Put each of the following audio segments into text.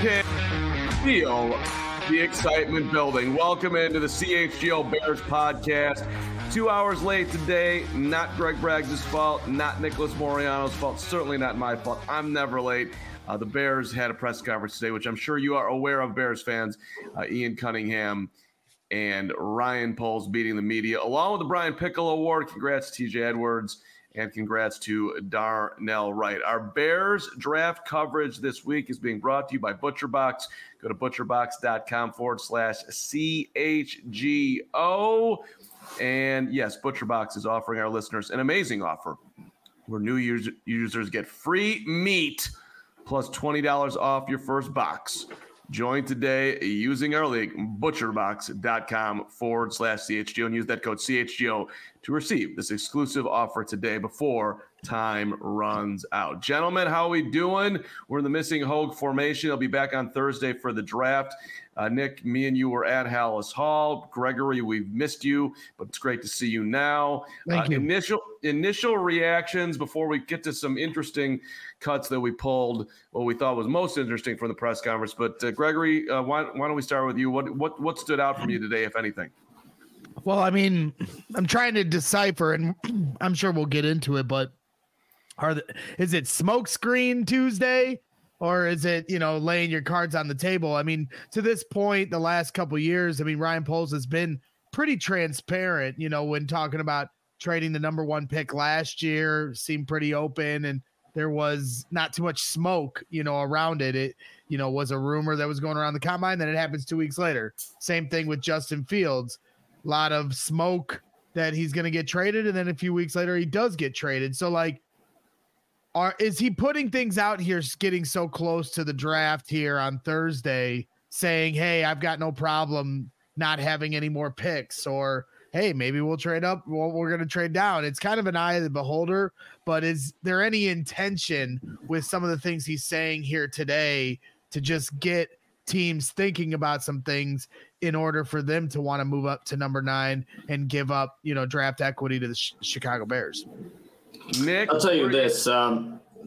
can feel the excitement building. Welcome into the CHGO Bears podcast. 2 hours late today. Not Greg Braggs' fault, not Nicholas Moriano's fault, certainly not my fault. I'm never late. The Bears had a press conference today, which I'm sure you are aware of, Bears fans. Ian Cunningham and Ryan Poles beating the media, along with the Brian Pickle Award. Congrats to TJ Edwards, and congrats to Darnell Wright. Our Bears draft coverage this week is being brought to you by ButcherBox. Go to butcherbox.com/CHGO. And yes, ButcherBox is offering our listeners an amazing offer where new users get free meat plus $20 off your first box. Join today using our link, butcherbox.com/CHGO, and use that code CHGO to receive this exclusive offer today before time runs out. Gentlemen, how are we doing? We're in the missing Hogue formation. I'll be back on Thursday for the draft. Nick, me and you were at Hallis Hall. Gregory, we've missed you, but it's great to see you now. Thank you. Initial reactions before we get to some interesting cuts that we pulled, what we thought was most interesting from the press conference. But Gregory, why don't we start with you? What stood out from you today, if anything? Well, I mean, I'm trying to decipher, and I'm sure we'll get into it, but is it Smokescreen Tuesday? Or is it, laying your cards on the table? I mean, to this point, the last couple of years, I mean, Ryan Poles has been pretty transparent, when talking about trading the number one pick last year, seemed pretty open, and there was not too much smoke, around it. It, was a rumor that was going around the combine, then it happens 2 weeks later. Same thing with Justin Fields. A lot of smoke that he's going to get traded, and then a few weeks later, he does get traded. So, is he putting things out here, getting so close to the draft here on Thursday, saying, hey, I've got no problem not having any more picks, or, hey, maybe we'll trade up. Well, we're going to trade down. It's kind of an eye of the beholder, but is there any intention with some of the things he's saying here today to just get teams thinking about some things in order for them to want to move up to number 9 and give up, draft equity to the Chicago Bears? Nick, I'll tell you this. There are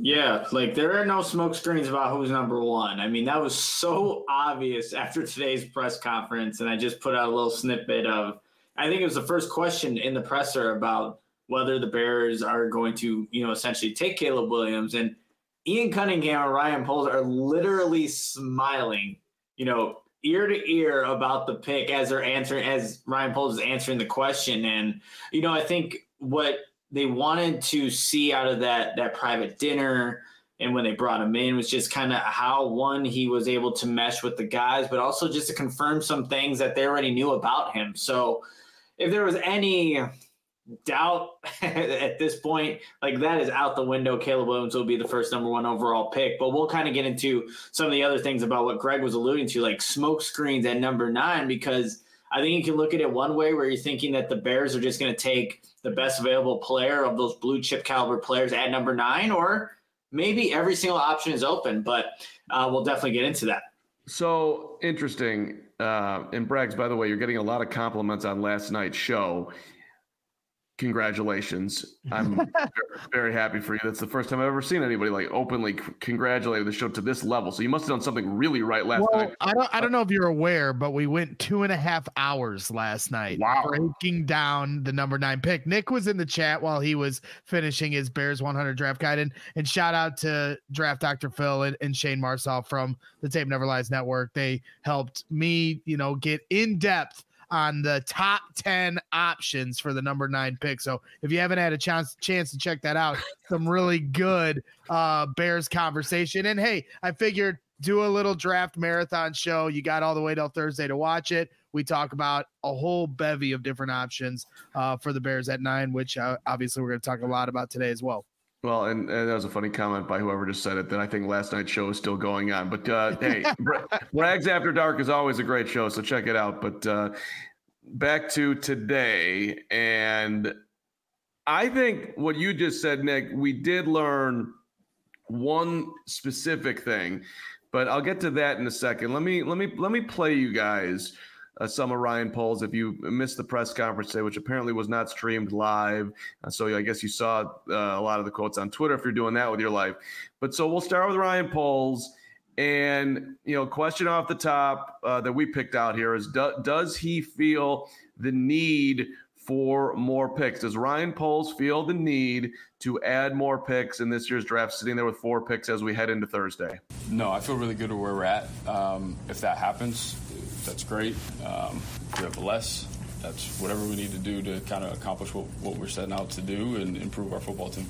no smoke screens about who's number 1. I mean, that was so obvious after today's press conference. And I just put out a little snippet of, I think it was the first question in the presser about whether the Bears are going to, essentially take Caleb Williams. And Ian Cunningham and Ryan Poles are literally smiling, ear to ear about the pick as Ryan Poles is answering the question. And, I think what they wanted to see out of that private dinner and when they brought him in was just kind of how, one, he was able to mesh with the guys, but also just to confirm some things that they already knew about him. So if there was any doubt at this point, that is out the window. Caleb Williams will be the first number 1 overall pick, but we'll kind of get into some of the other things about what Greg was alluding to, like smoke screens at number 9, because I think you can look at it one way where you're thinking that the Bears are just going to take the best available player of those blue chip caliber players at number 9, or maybe every single option is open, but we'll definitely get into that. So interesting. And Braggs, by the way, you're getting a lot of compliments on last night's show. Congratulations. I'm very, very happy for you. That's the first time I've ever seen anybody openly congratulate the show to this level. So you must have done something really right last night. I don't know if you're aware, but we went 2.5 hours last night. Wow. Breaking down the number 9 pick. Nick was in the chat while he was finishing his Bears 100 draft guide, and shout out to Draft Dr. Phil and Shane Marsaw from the Tape Never Lies Network. They helped me, get in depth on the top 10 options for the number 9 pick. So if you haven't had a chance to check that out, some really good Bears conversation. And hey, I figured do a little draft marathon show. You got all the way till Thursday to watch it. We talk about a whole bevy of different options for the Bears at 9, which obviously we're going to talk a lot about today as well. Well, and that was a funny comment by whoever just said it, that I think last night's show is still going on. But, hey, Braggs After Dark is always a great show, so check it out. But back to today, and I think what you just said, Nick, we did learn one specific thing, but I'll get to that in a second. Let me play you guys some of Ryan Poles. If you missed the press conference today, which apparently was not streamed live, so I guess you saw a lot of the quotes on Twitter if you're doing that with your life. But so we'll start with Ryan Poles, And, question off the top that we picked out here is, does he feel the need for more picks? Does Ryan Poles feel the need to add more picks in this year's draft, sitting there with 4 picks as we head into Thursday? No, I feel really good at where we're at. If that happens, that's great. If we have less, that's whatever we need to do to kind of accomplish what we're setting out to do and improve our football team.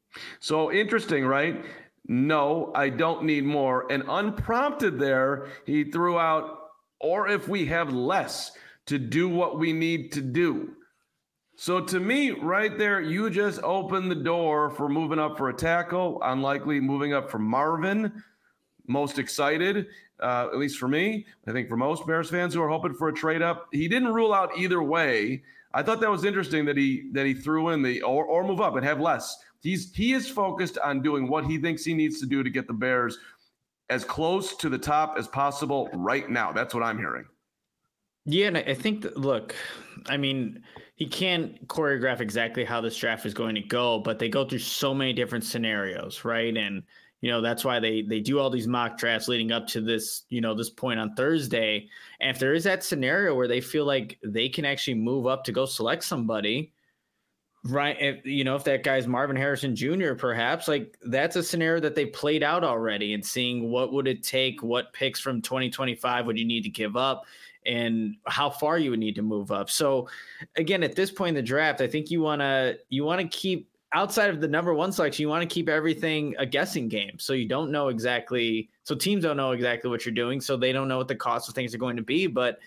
So interesting, right? No, I don't need more. And unprompted there, he threw out, or if we have less to do what we need to do. So to me, right there, you just opened the door for moving up for a tackle, unlikely moving up for Marvin. Most excited, at least for me. I think for most Bears fans who are hoping for a trade up. He didn't rule out either way. I thought that was interesting that he threw in the or move up and have less. He is focused on doing what he thinks he needs to do to get the Bears as close to the top as possible right now. That's what I'm hearing. Yeah, and I think look, I mean, he can't choreograph exactly how this draft is going to go, but they go through so many different scenarios, right? And that's why they do all these mock drafts leading up to this, this point on Thursday. And if there is that scenario where they feel like they can actually move up to go select somebody, right? If that guy's Marvin Harrison Jr., perhaps, like that's a scenario that they played out already, and seeing what would it take, what picks from 2025 would you need to give up, and how far you would need to move up. So again, at this point in the draft, I think you want to keep, outside of the number 1 selection, you want to keep everything a guessing game. So you don't know exactly, so teams don't know exactly what you're doing. So they don't know what the cost of things are going to be. But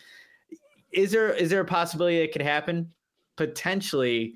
is there a possibility it could happen? Potentially.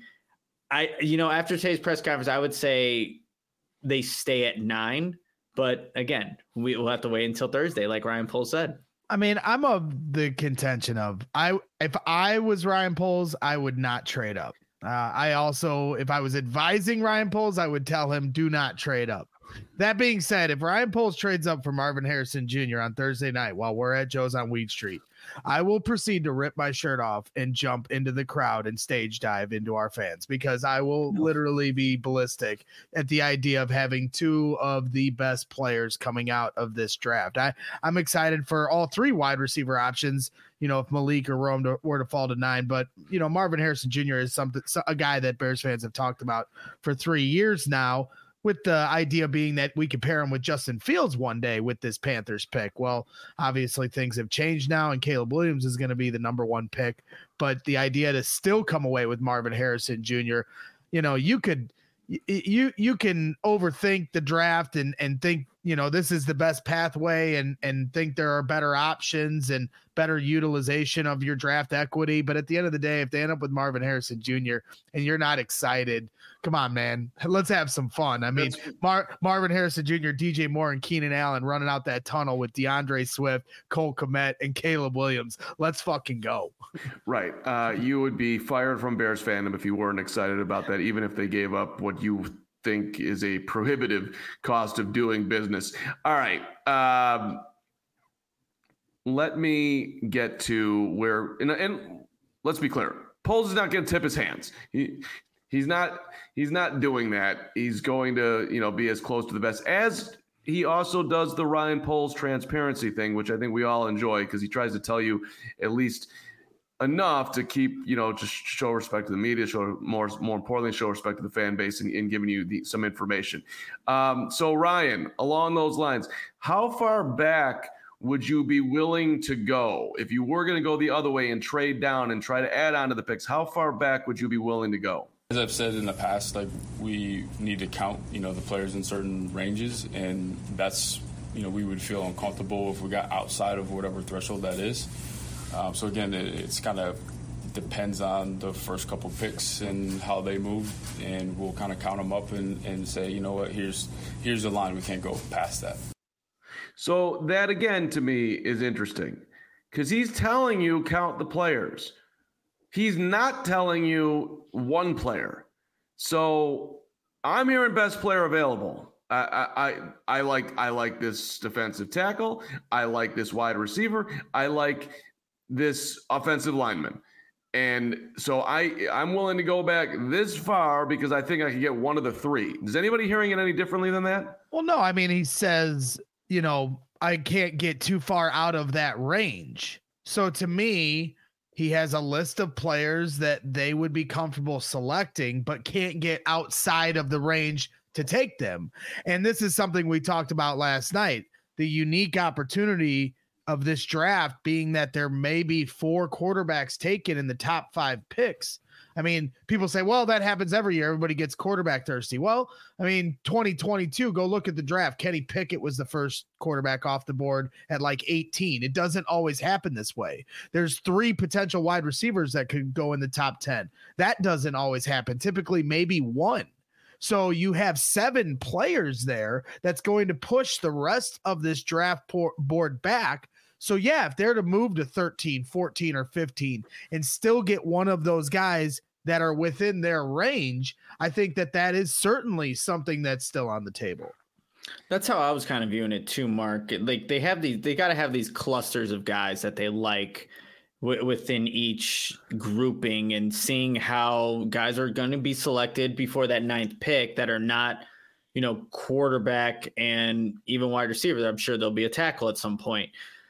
After today's press conference, I would say they stay at 9. But again, we'll have to wait until Thursday, like Ryan Poles said. I mean, I'm of the contention of if I was Ryan Poles, I would not trade up. I also, if I was advising Ryan Poles, I would tell him do not trade up. That being said, if Ryan Poles trades up for Marvin Harrison Jr. on Thursday night while we're at Joe's on Weed Street, I will proceed to rip my shirt off and jump into the crowd and stage dive into our fans, because I will literally be ballistic at the idea of having 2 of the best players coming out of this draft. I'm excited for all 3 wide receiver options, if Malik or Rome were to fall to 9. But, Marvin Harrison Jr. is a guy that Bears fans have talked about for 3 years now, with the idea being that we could pair him with Justin Fields one day with this Panthers pick. Well, obviously things have changed now, and Caleb Williams is going to be the number 1 pick. But the idea to still come away with Marvin Harrison Jr., you can overthink the draft and think, this is the best pathway and think there are better options and better utilization of your draft equity. But at the end of the day, if they end up with Marvin Harrison Jr. and you're not excited, come on, man, let's have some fun. I mean, Marvin Harrison Jr., DJ Moore, and Keenan Allen running out that tunnel with DeAndre Swift, Cole Kmet, and Caleb Williams. Let's fucking go. Right. You would be fired from Bears fandom if you weren't excited about that, even if they gave up what you think is a prohibitive cost of doing business. All right. Let me get to where, and let's be clear, Poles is not going to tip his hands. He's not doing that. He's going to, be as close to the best as he also does the Ryan Poles transparency thing, which I think we all enjoy, because he tries to tell you at least enough to keep, just show respect to the media, show more importantly, show respect to the fan base, and giving you some information. So Ryan, along those lines, how far back would you be willing to go if you were going to go the other way and trade down and try to add on to the picks? How far back would you be willing to go? As I've said in the past, we need to count, the players in certain ranges, and that's, we would feel uncomfortable if we got outside of whatever threshold that is. So again, it's kind of depends on the first couple picks and how they move, and we'll kind of count them up and say, you know what, here's the line, we can't go past that. So that again to me is interesting, because he's telling you count the players. He's not telling you one player. So I'm hearing best player available. I like this defensive tackle. I like this wide receiver. I like this offensive lineman. And so I'm willing to go back this far because I think I can get one of the 3. Is anybody hearing it any differently than that? Well, no, I mean, he says, I can't get too far out of that range. So to me, he has a list of players that they would be comfortable selecting, but can't get outside of the range to take them. And this is something we talked about last night. The unique opportunity of this draft being that there may be 4 quarterbacks taken in the top 5 picks. I mean, people say, well, that happens every year. Everybody gets quarterback thirsty. Well, I mean, 2022, go look at the draft. Kenny Pickett was the first quarterback off the board at like 18. It doesn't always happen this way. There's 3 potential wide receivers that could go in the top 10. That doesn't always happen. Typically, maybe 1. So you have 7 players there that's going to push the rest of this draft board back. So yeah, if they're to move to 13, 14, or 15 and still get one of those guys that are within their range, I think that is certainly something that's still on the table. That's how I was kind of viewing it too, Mark. Like they got to have these clusters of guys that they like within each grouping, and seeing how guys are going to be selected before that 9th pick that are not, quarterback and even wide receiver. I'm sure there'll be a tackle at some point.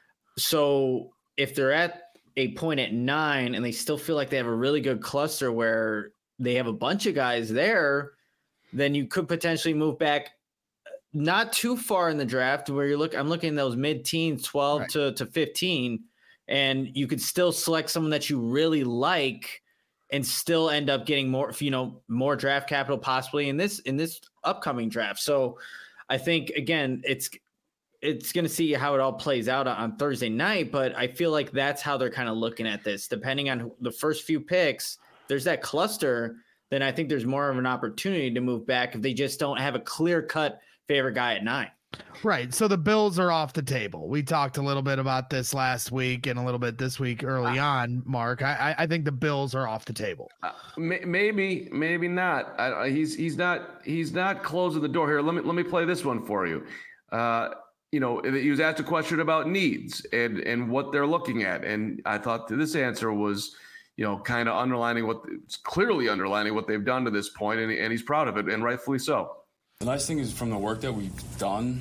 So if they're at a point at 9 and they still feel like they have a really good cluster where they have a bunch of guys there, then you could potentially move back not too far in the draft where I'm looking at those mid-teens, 12 right. to 15, and you could still select someone that you really like and still end up getting more draft capital possibly in this upcoming draft. So I think, again, it's going to see how it all plays out on Thursday night, but I feel like that's how they're kind of looking at this. Depending on the first few picks, there's that cluster, then I think there's more of an opportunity to move back if they just don't have a clear-cut favorite guy at 9. Right. So the Bills are off the table. We talked a little bit about this last week and a little bit this week early on, Mark. I think the Bills are off the table. Maybe not. He's not closing the door here. Let me play this one for you. He was asked a question about needs and what they're looking at. And I thought this answer was, kind of clearly underlining what they've done to this point, and he's proud of it, and rightfully so. The nice thing is, from the work that we've done,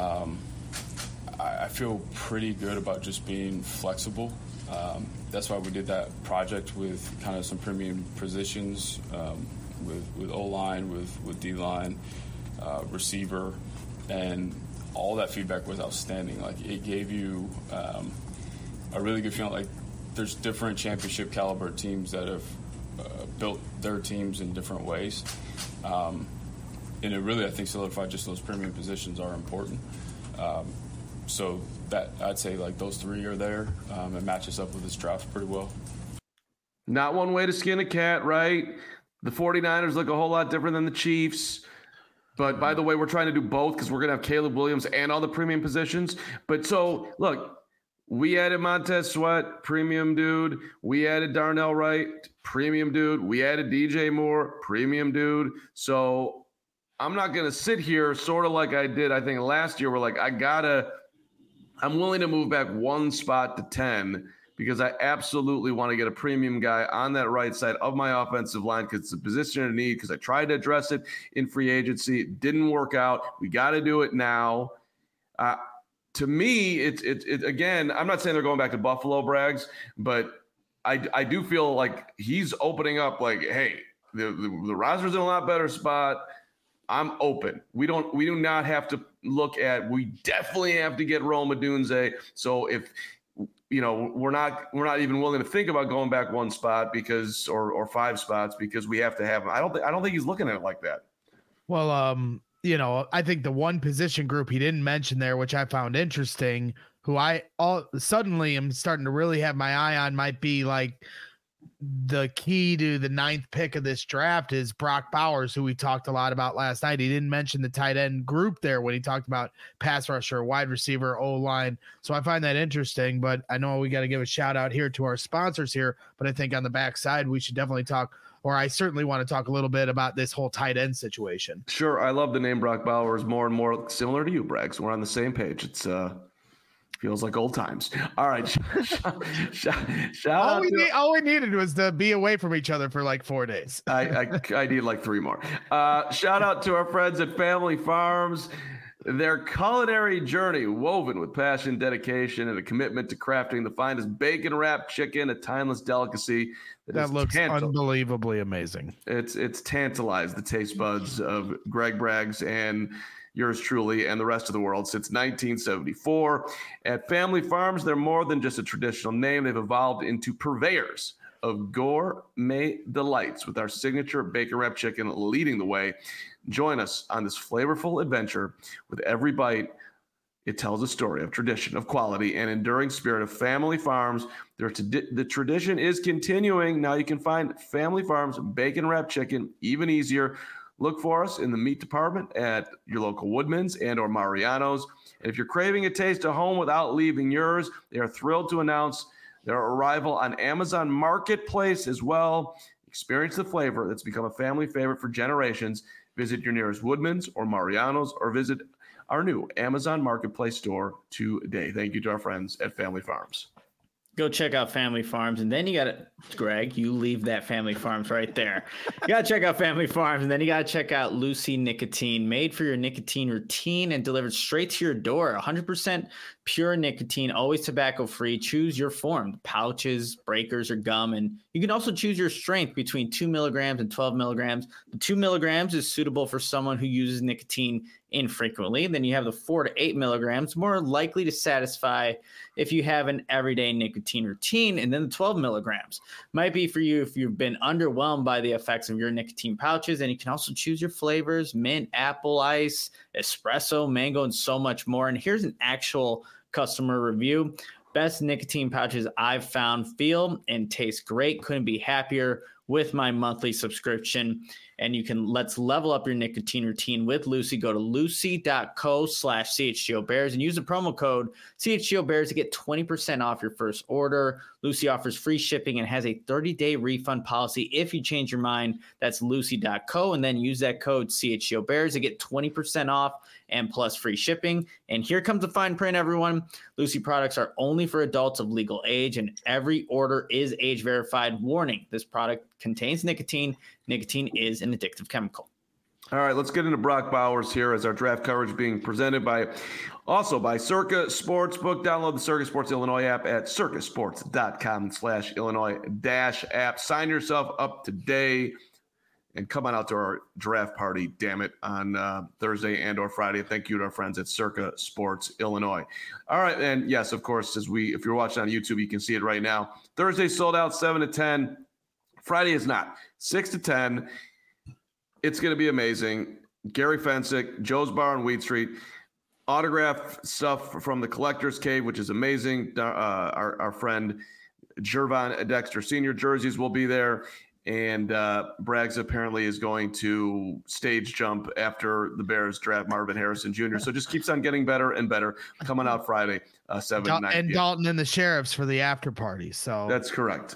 I feel pretty good about just being flexible. That's why we did that project with kind of some premium positions, with O-line, with D-line, receiver, and all that feedback was outstanding. Like, it gave you a really good feeling. Like, there's different championship caliber teams that have built their teams in different ways. And it really, I think, solidified just those premium positions are important. So that, I'd say, like, those 3 are there. It matches up with this draft pretty well. Not one way to skin a cat, right? The 49ers look a whole lot different than the Chiefs. But by the way, we're trying to do both because we're going to have Caleb Williams and all the premium positions. But so, look, we added Montez Sweat, premium dude. We added Darnell Wright, premium dude. We added DJ Moore, premium dude. So I'm not going to sit here sort of like I did, I think, last year. We're like, I'm willing to move back 1 spot to 10 because I absolutely want to get a premium guy on that right side of my offensive line because it's a position of need, because I tried to address it in free agency. It didn't work out. We got to do it now. To me, it's again, I'm not saying they're going back to Buffalo, Braggs, but I do feel like he's opening up like, hey, the roster's in a lot better spot. I'm open. We do not have to look at, we definitely have to get Rome Odunze. So if, we're not even willing to think about going back 1 spot because, or 5 spots because we have to have him. I don't think he's looking at it like that. Well, I think the one position group he didn't mention there, which I found interesting, who I suddenly am starting to really have my eye on, might be like the key to the 9th pick of this draft, is Brock Bowers, who we talked a lot about last night. He didn't mention the tight end group there when he talked about pass rusher, wide receiver, O-line. So I find that interesting, but I know we got to give a shout out here to our sponsors here, but I think on the backside, we should definitely talk, or I certainly want to talk a little bit about this whole tight end situation. Sure. I love the name Brock Bowers, more and more similar to you, Braggs. We're on the same page. It's feels like old times. All right. Shout out. All we needed was to be away from each other for like 4 days. I need like 3 more. Shout out to our friends at Family Farms. Their culinary journey, woven with passion, dedication, and a commitment to crafting the finest bacon-wrapped chicken, a timeless delicacy that looks unbelievably amazing. It's tantalized the taste buds of Greg Braggs and yours truly and the rest of the world since 1974. At Family Farms, they're more than just a traditional name. They've evolved into purveyors of gourmet delights with our signature bacon-wrapped chicken leading the way. Join us on this flavorful adventure. With every bite, it tells a story of tradition, of quality, and enduring spirit of Family Farms. The tradition is continuing. Now you can find Family Farms bacon-wrapped chicken even easier. Look for us in the meat department at your local Woodman's and or Mariano's. And if you're craving a taste of home without leaving yours, they are thrilled to announce their arrival on Amazon Marketplace as well. Experience the flavor that's become a family favorite for generations. Visit your nearest Woodman's or Mariano's or visit our new Amazon Marketplace store today. Thank you to our friends at Family Farms. Go check out Family Farms, and then you got to, Greg, you leave that Family Farms right there. You got to check out Family Farms, and then you got to check out Lucy Nicotine, made for your nicotine routine and delivered straight to your door. 100% pure nicotine, always tobacco-free. Choose your form, pouches, breakers, or gum, and you can also choose your strength between 2 milligrams and 12 milligrams. The 2 milligrams is suitable for someone who uses nicotine infrequently. Then you have the 4 to 8 milligrams, more likely to satisfy if you have an everyday nicotine routine. And then the 12 milligrams might be for you if you've been underwhelmed by the effects of your nicotine pouches. And you can also choose your flavors: mint, apple, ice, espresso, mango, and so much more. And here's an actual customer review. Best nicotine pouches I've found, feel and taste great. Couldn't be happier with my monthly subscription. And let's level up your nicotine routine with Lucy. Go to lucy.co/CHGOBears and use the promo code CHGOBears to get 20% off your first order. Lucy offers free shipping and has a 30-day refund policy if you change your mind. That's lucy.co, and then use that code CHGOBears to get 20% off and plus free shipping. And here comes the fine print, everyone. Lucy products are only for adults of legal age, and every order is age verified. Warning: this product contains nicotine. Nicotine is an addictive chemical. All right, let's get into Brock Bowers here as our draft coverage being presented by Circa Sportsbook. Download the Circa Sports Illinois app at circasports.com/Illinois-app. Sign yourself up today and come on out to our draft party, damn it, on Thursday and or Friday. Thank you to our friends at Circa Sports Illinois. All right, and yes, of course, if you're watching on YouTube, you can see it right now. Thursday sold out 7 to 10. Friday is not. 6 to 10. It's going to be amazing. Gary Fensick, Joe's Bar on Wheat Street. Autograph stuff from the Collector's Cave, which is amazing. Our friend Jervon Dexter Sr. jerseys will be there. And Braggs apparently is going to stage jump after the Bears draft Marvin Harrison Jr. So just keeps on getting better and better. Coming out Friday, 7 to 9 and Dalton and the Sheriffs for the after party. So that's correct.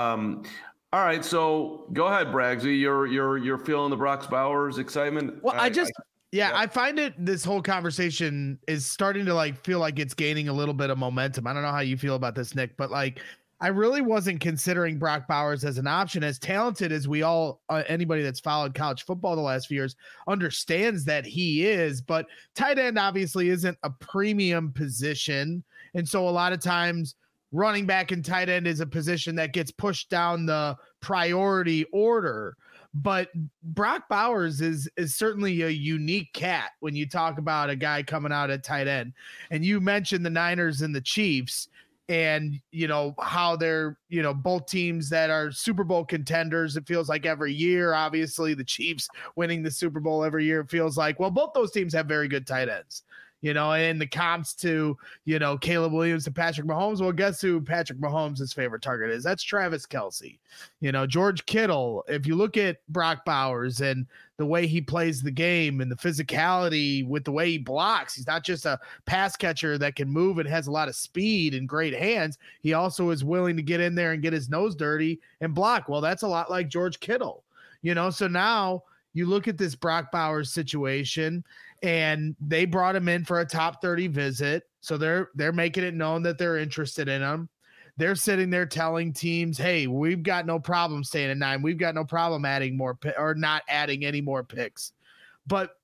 All right, so go ahead, Braggsy. You're feeling the Brock Bowers excitement. Well, I find this whole conversation is starting to feel like it's gaining a little bit of momentum. I don't know how you feel about this, Nick, but I really wasn't considering Brock Bowers as an option. As talented as we all, anybody that's followed college football the last few years understands that he is, but tight end obviously isn't a premium position. And so a lot of times running back and tight end is a position that gets pushed down the priority order. But Brock Bowers is certainly a unique cat when you talk about a guy coming out at tight end. And you mentioned the Niners and the Chiefs, and how they're both teams that are Super Bowl contenders. It feels like every year. Obviously the Chiefs winning the Super Bowl every year, it feels like. Well, both those teams have very good tight ends, and the comps to Caleb Williams and Patrick Mahomes. Well, guess who Patrick Mahomes' favorite target is? That's Travis Kelce. George Kittle. If you look at Brock Bowers and the way he plays the game and the physicality with the way he blocks, he's not just a pass catcher that can move and has a lot of speed and great hands. He also is willing to get in there and get his nose dirty and block. Well, that's a lot like George Kittle, so now you look at this Brock Bowers situation, and they brought him in for a top 30 visit. So they're making it known that they're interested in him. They're sitting there telling teams, hey, we've got no problem staying at 9. We've got no problem adding more or not adding any more picks. But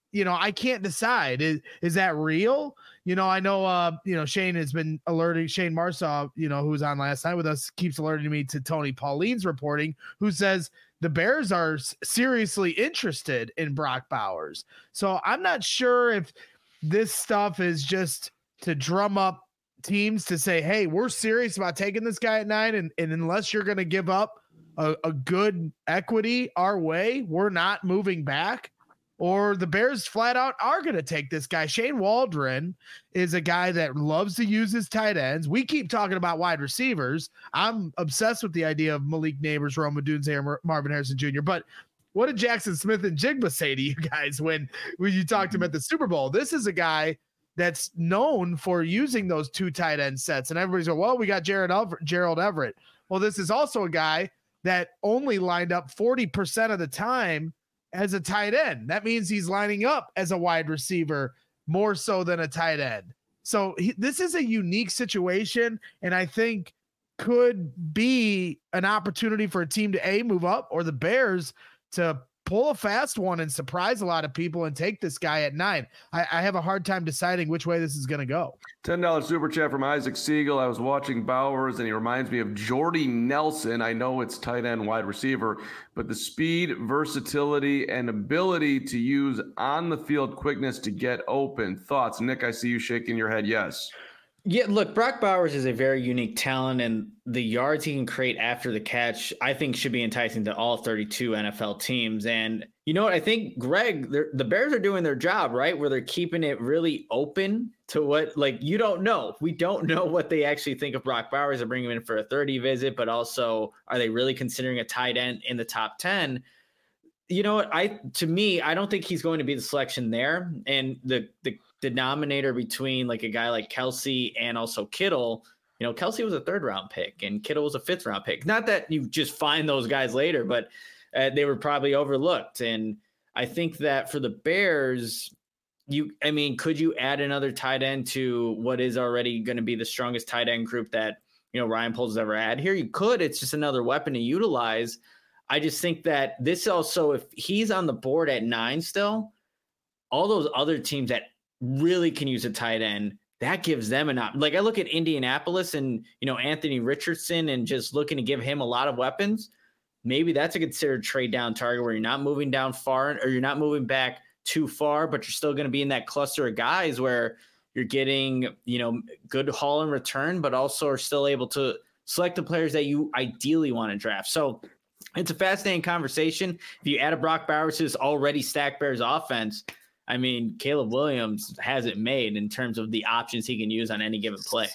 I can't decide. Is that real? I know, Shane has been alerting Shane Marsaw, who was on last night with us, keeps alerting me to Tony Pauline's reporting, who says the Bears are seriously interested in Brock Bowers. So I'm not sure if this stuff is just to drum up teams to say, hey, we're serious about taking this guy at 9. And unless you're going to give up a good equity our way, we're not moving back. Or the Bears flat out are going to take this guy. Shane Waldron is a guy that loves to use his tight ends. We keep talking about wide receivers. I'm obsessed with the idea of Malik Neighbors, Rome Odunze, or Marvin Harrison Jr. But what did Jackson Smith and Jigba say to you guys when you talked to him at the Super Bowl? This is a guy that's known for using those 2 tight end sets. And everybody's going, well, we got Gerald Everett. Well, this is also a guy that only lined up 40% of the time as a tight end. That means he's lining up as a wide receiver more so than a tight end. So this is a unique situation, and I think could be an opportunity for a team to move up, or the Bears to pull a fast one and surprise a lot of people and take this guy at 9. I have a hard time deciding which way this is going to go. $10 super chat from Isaac Siegel. I was watching Bowers, and he reminds me of Jordy Nelson. I know it's tight end, wide receiver, but the speed, versatility, and ability to use on-the-field quickness to get open. Thoughts? Nick, I see you shaking your head yes. Yeah, look, Brock Bowers is a very unique talent, and the yards he can create after the catch, I think, should be enticing to all 32 NFL teams. And you know what? I think, Greg, the Bears are doing their job, right? Where they're keeping it really open to what, you don't know. We don't know what they actually think of Brock Bowers. They're bringing him in for a 30 visit, but also, are they really considering a tight end in the top 10? You know what? To me, I don't think he's going to be the selection there. And the denominator between a guy like Kelce and also Kittle, Kelce was a 3rd round pick and Kittle was a 5th round pick. Not that you just find those guys later, but they were probably overlooked. And I think that for the Bears, could you add another tight end to what is already going to be the strongest tight end group that, Ryan Poles has ever had here? You could. It's just another weapon to utilize. I just think that this also, if he's on the board at 9 still, all those other teams that really can use a tight end, that gives them an option. I look at Indianapolis and, Anthony Richardson and just looking to give him a lot of weapons. Maybe that's a considered trade down target where you're not moving down far or you're not moving back too far, but you're still going to be in that cluster of guys where you're getting, good haul in return, but also are still able to select the players that you ideally want to draft. So it's a fascinating conversation. If you add a Brock Bowers to this already stacked Bears offense, Caleb Williams has it made in terms of the options he can use on any given play.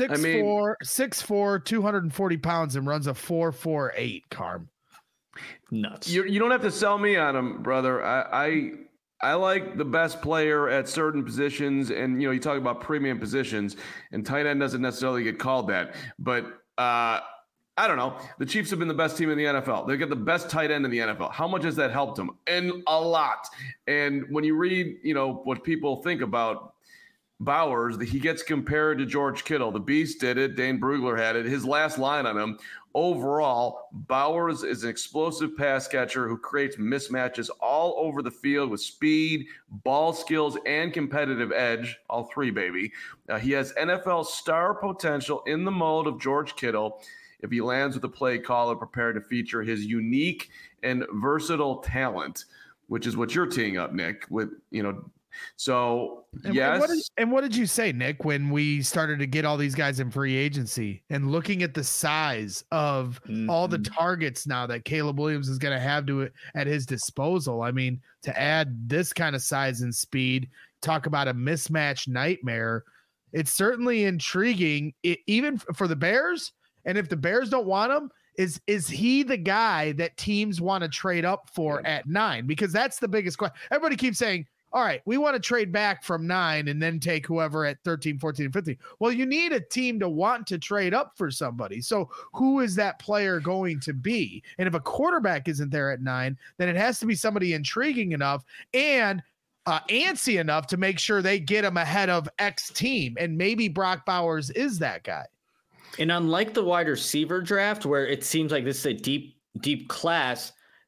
6'4", 240 pounds, and runs a 4.48. Carm. Nuts. You don't have to sell me on him, brother. I like the best player at certain positions, and you talk about premium positions, and tight end doesn't necessarily get called that, but I don't know. The Chiefs have been the best team in the NFL. They've got the best tight end in the NFL. How much has that helped them? And a lot. And when you read, what people think about Bowers, he gets compared to George Kittle. The Beast did it. Dane Brugler had it. His last line on him, overall, Bowers is an explosive pass catcher who creates mismatches all over the field with speed, ball skills, and competitive edge. All 3, baby. He has NFL star potential in the mold of George Kittle if he lands with a play caller prepared to feature his unique and versatile talent, which is what you're teeing up, Nick, with, so yes. And what did you say, Nick, when we started to get all these guys in free agency and looking at the size of all the targets now that Caleb Williams is going to have at his disposal? To add this kind of size and speed, talk about a mismatch nightmare. It's certainly intriguing, even for the Bears. And if the Bears don't want him, is he the guy that teams want to trade up for at 9? Because that's the biggest question. Everybody keeps saying, all right, we want to trade back from 9 and then take whoever at 13, 14, 15. Well, you need a team to want to trade up for somebody. So who is that player going to be? And if a quarterback isn't there at 9, then it has to be somebody intriguing enough and antsy enough to make sure they get him ahead of X team. And maybe Brock Bowers is that guy. And unlike the wide receiver draft, where it seems like this is a deep class,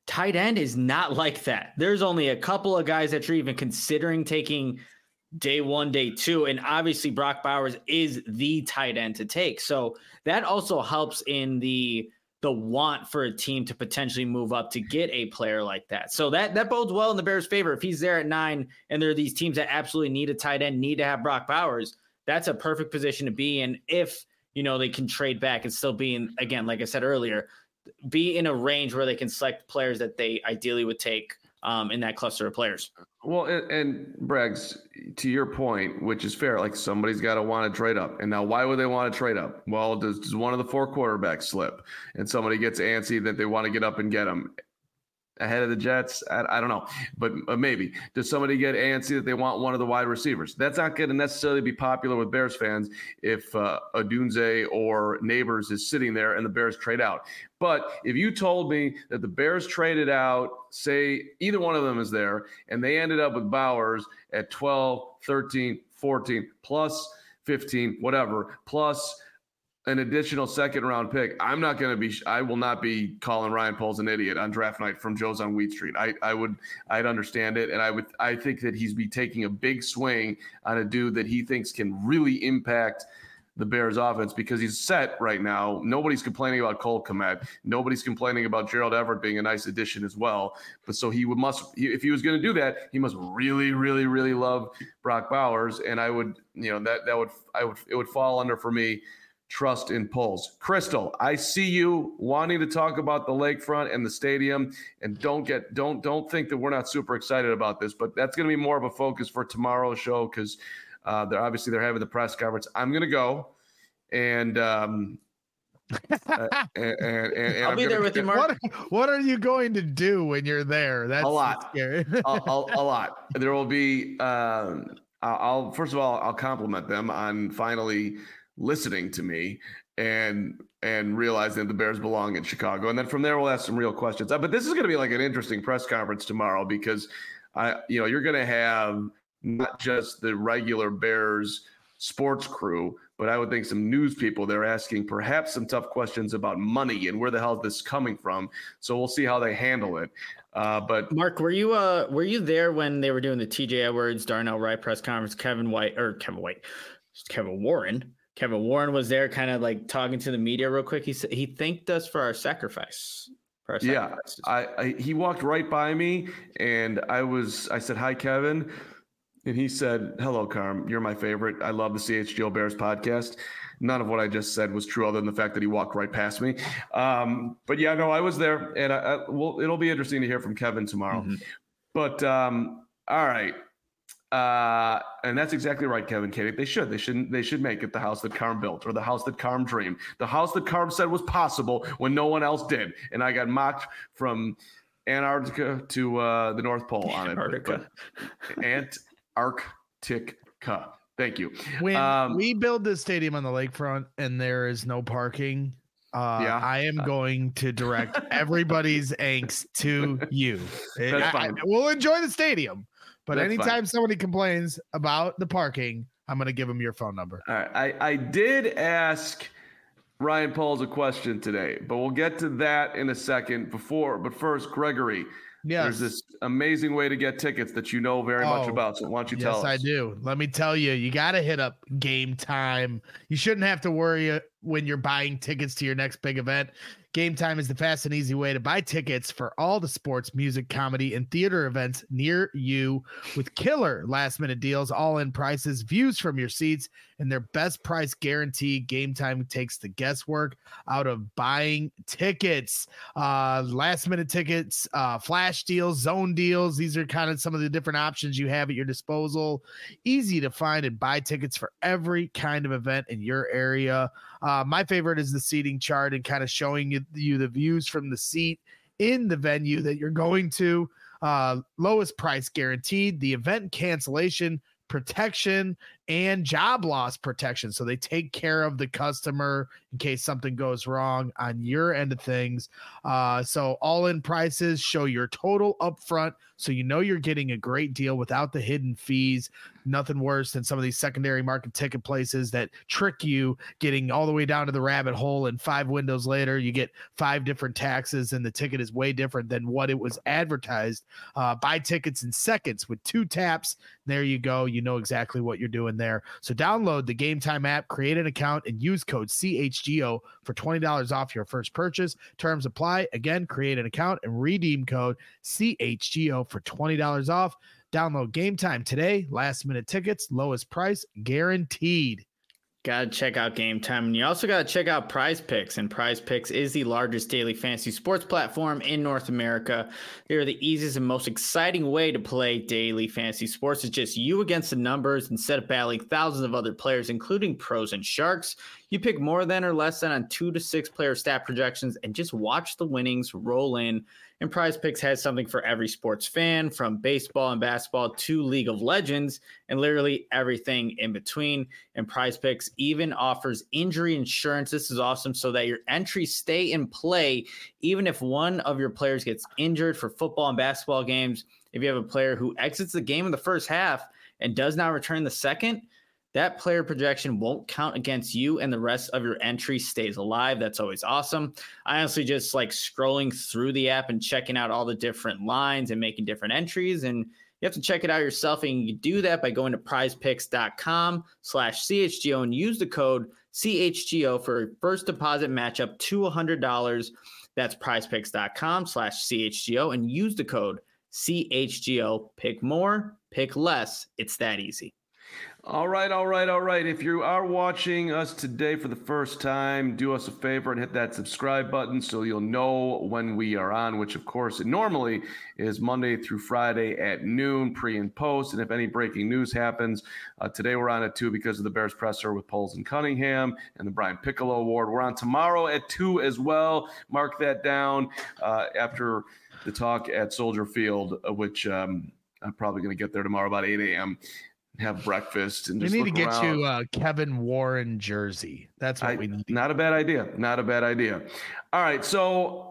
tight end is not like that. There's only a couple of guys that you're even considering taking day 1, day 2. And obviously Brock Bowers is the tight end to take. So that also helps in the want for a team to potentially move up to get a player like that. So that bodes well in the Bears' favor. If he's there at 9 and there are these teams that absolutely need a tight end, need to have Brock Bowers, that's a perfect position to be in if, they can trade back and still be in, again, like I said earlier, be in a range where they can select players that they ideally would take in that cluster of players. Well, and Braggs, to your point, which is fair, like somebody's got to want to trade up. And now why would they want to trade up? Well, does one of the 4 quarterbacks slip and somebody gets antsy that they want to get up and get them ahead of the Jets? I don't know, but maybe. Does somebody get antsy that they want one of the wide receivers? That's not going to necessarily be popular with Bears fans if Odunze or Neighbors is sitting there and the Bears trade out. But if you told me that the Bears traded out, say either one of them is there, and they ended up with Bowers at 12, 13, 14, plus 15, whatever, plus an additional second-round pick, I will not be calling Ryan Poles an idiot on draft night from Joe's on Wheat Street. I'd understand it, and I think that he's be taking a big swing on a dude that he thinks can really impact the Bears offense because he's set right now. Nobody's complaining about Cole Kmet. Nobody's complaining about Gerald Everett being a nice addition as well. But so if he was going to do that, he must really, really, really love Brock Bowers. And I would, it would fall under for me trust in Poles. Crystal, I see you wanting to talk about the lakefront and the stadium, and don't think that we're not super excited about this, but that's going to be more of a focus for tomorrow's show because they're having the press conference. I'm going to go and I'll be there with you, Mark. What are you going to do when you're there? That's a lot. Scary. a lot. There will be. First of all, I'll compliment them on finally listening to me and realizing that the Bears belong in Chicago. And then from there, we'll ask some real questions. But this is going to be like an interesting press conference tomorrow because you're going to have not just the regular Bears sports crew, but I would think some news people they're asking perhaps some tough questions about money and where the hell is this coming from. So we'll see how they handle it. But Mark, were you there when they were doing the TJ Edwards, Darnell Wright press conference? Kevin Warren was there kind of like talking to the media real quick. He said he thanked us for our sacrifice. Yeah, he walked right by me and I said, "Hi, Kevin." And he said, "Hello, Carm. You're my favorite. I love the CHGO Bears podcast." None of what I just said was true other than the fact that he walked right past me. But yeah, no, I was there and it'll be interesting to hear from Kevin tomorrow. Mm-hmm. But all right. And that's exactly right, Kevin Katie. They should make it the house that Carm built or the house that Carm dreamed, the house that Carm said was possible when no one else did. And I got mocked from Antarctica to the North Pole on it. Antarctica. Thank you. When we build this stadium on the lakefront and there is no parking, I am going to direct everybody's angst to you. That's fine. We'll enjoy the stadium. But That's anytime fine. somebody complains about the parking, I'm going to give them your phone number. All right. I did ask Ryan Poles a question today, but we'll get to that in a second. But first, Gregory, there's this amazing way to get tickets that you know very much about. So why don't you tell us? Yes, I do. Let me tell you, you got to hit up Game Time. You shouldn't have to worry when you're buying tickets to your next big event. Game Time is the fast and easy way to buy tickets for all the sports, music, comedy, and theater events near you with killer last-minute deals, all-in prices, views from your seats, and their best price guarantee. Game Time takes the guesswork out of buying tickets. Last-minute tickets, flash deals, zone deals. These are kind of some of the different options you have at your disposal. Easy to find and buy tickets for every kind of event in your area. My favorite is the seating chart and kind of showing you the views from the seat in the venue that you're going to. Lowest price guaranteed, the event cancellation protection, and job loss protection. So they take care of the customer in case something goes wrong on your end of things. So all-in prices show your total upfront, so you know you're getting a great deal without the hidden fees. Nothing worse than some of these secondary market ticket places that trick you, getting all the way down to the rabbit hole, and 5 windows later you get 5 different taxes and the ticket is way different than what it was advertised. Buy tickets in seconds with 2 taps. There you go. You know exactly what you're doing there. So download the Game Time app, create an account, and use code CHGO for $20 off your first purchase. Terms apply. Again, create an account and redeem code CHGO for $20 off. Download Game Time today. Last minute tickets, lowest price guaranteed. Got to check out Game Time. And you also got to check out Prize Picks. And Prize Picks is the largest daily fantasy sports platform in North America. They're the easiest and most exciting way to play daily fantasy sports. It's just you against the numbers instead of battling thousands of other players, including pros and sharks. You pick more than or less than on 2 to 6 player stat projections and just watch the winnings roll in. And Prize Picks has something for every sports fan, from baseball and basketball to League of Legends and literally everything in between. And Prize Picks even offers injury insurance. This is awesome, so that your entries stay in play even if one of your players gets injured for football and basketball games. If you have a player who exits the game in the first half and does not return the second, that player projection won't count against you and the rest of your entry stays alive. That's always awesome. I honestly just like scrolling through the app and checking out all the different lines and making different entries. And you have to check it out yourself. And you can do that by going to prizepicks.com/CHGO and use the code CHGO for a first deposit match up to $100. That's prizepicks.com/CHGO and use the code CHGO. Pick more, pick less. It's that easy. All right. If you are watching us today for the first time, do us a favor and hit that subscribe button so you'll know when we are on, which of course it normally is Monday through Friday at noon, pre and post. And if any breaking news happens, today we're on at 2 because of the Bears presser with Poles and Cunningham and the Brian Piccolo Award. We're on tomorrow at 2 as well. Mark that down after the talk at Soldier Field, which I'm probably going to get there tomorrow about 8 a.m., have breakfast and just we need to get around. you a Kevin Warren jersey. That's what we need. Not a bad idea. All right. So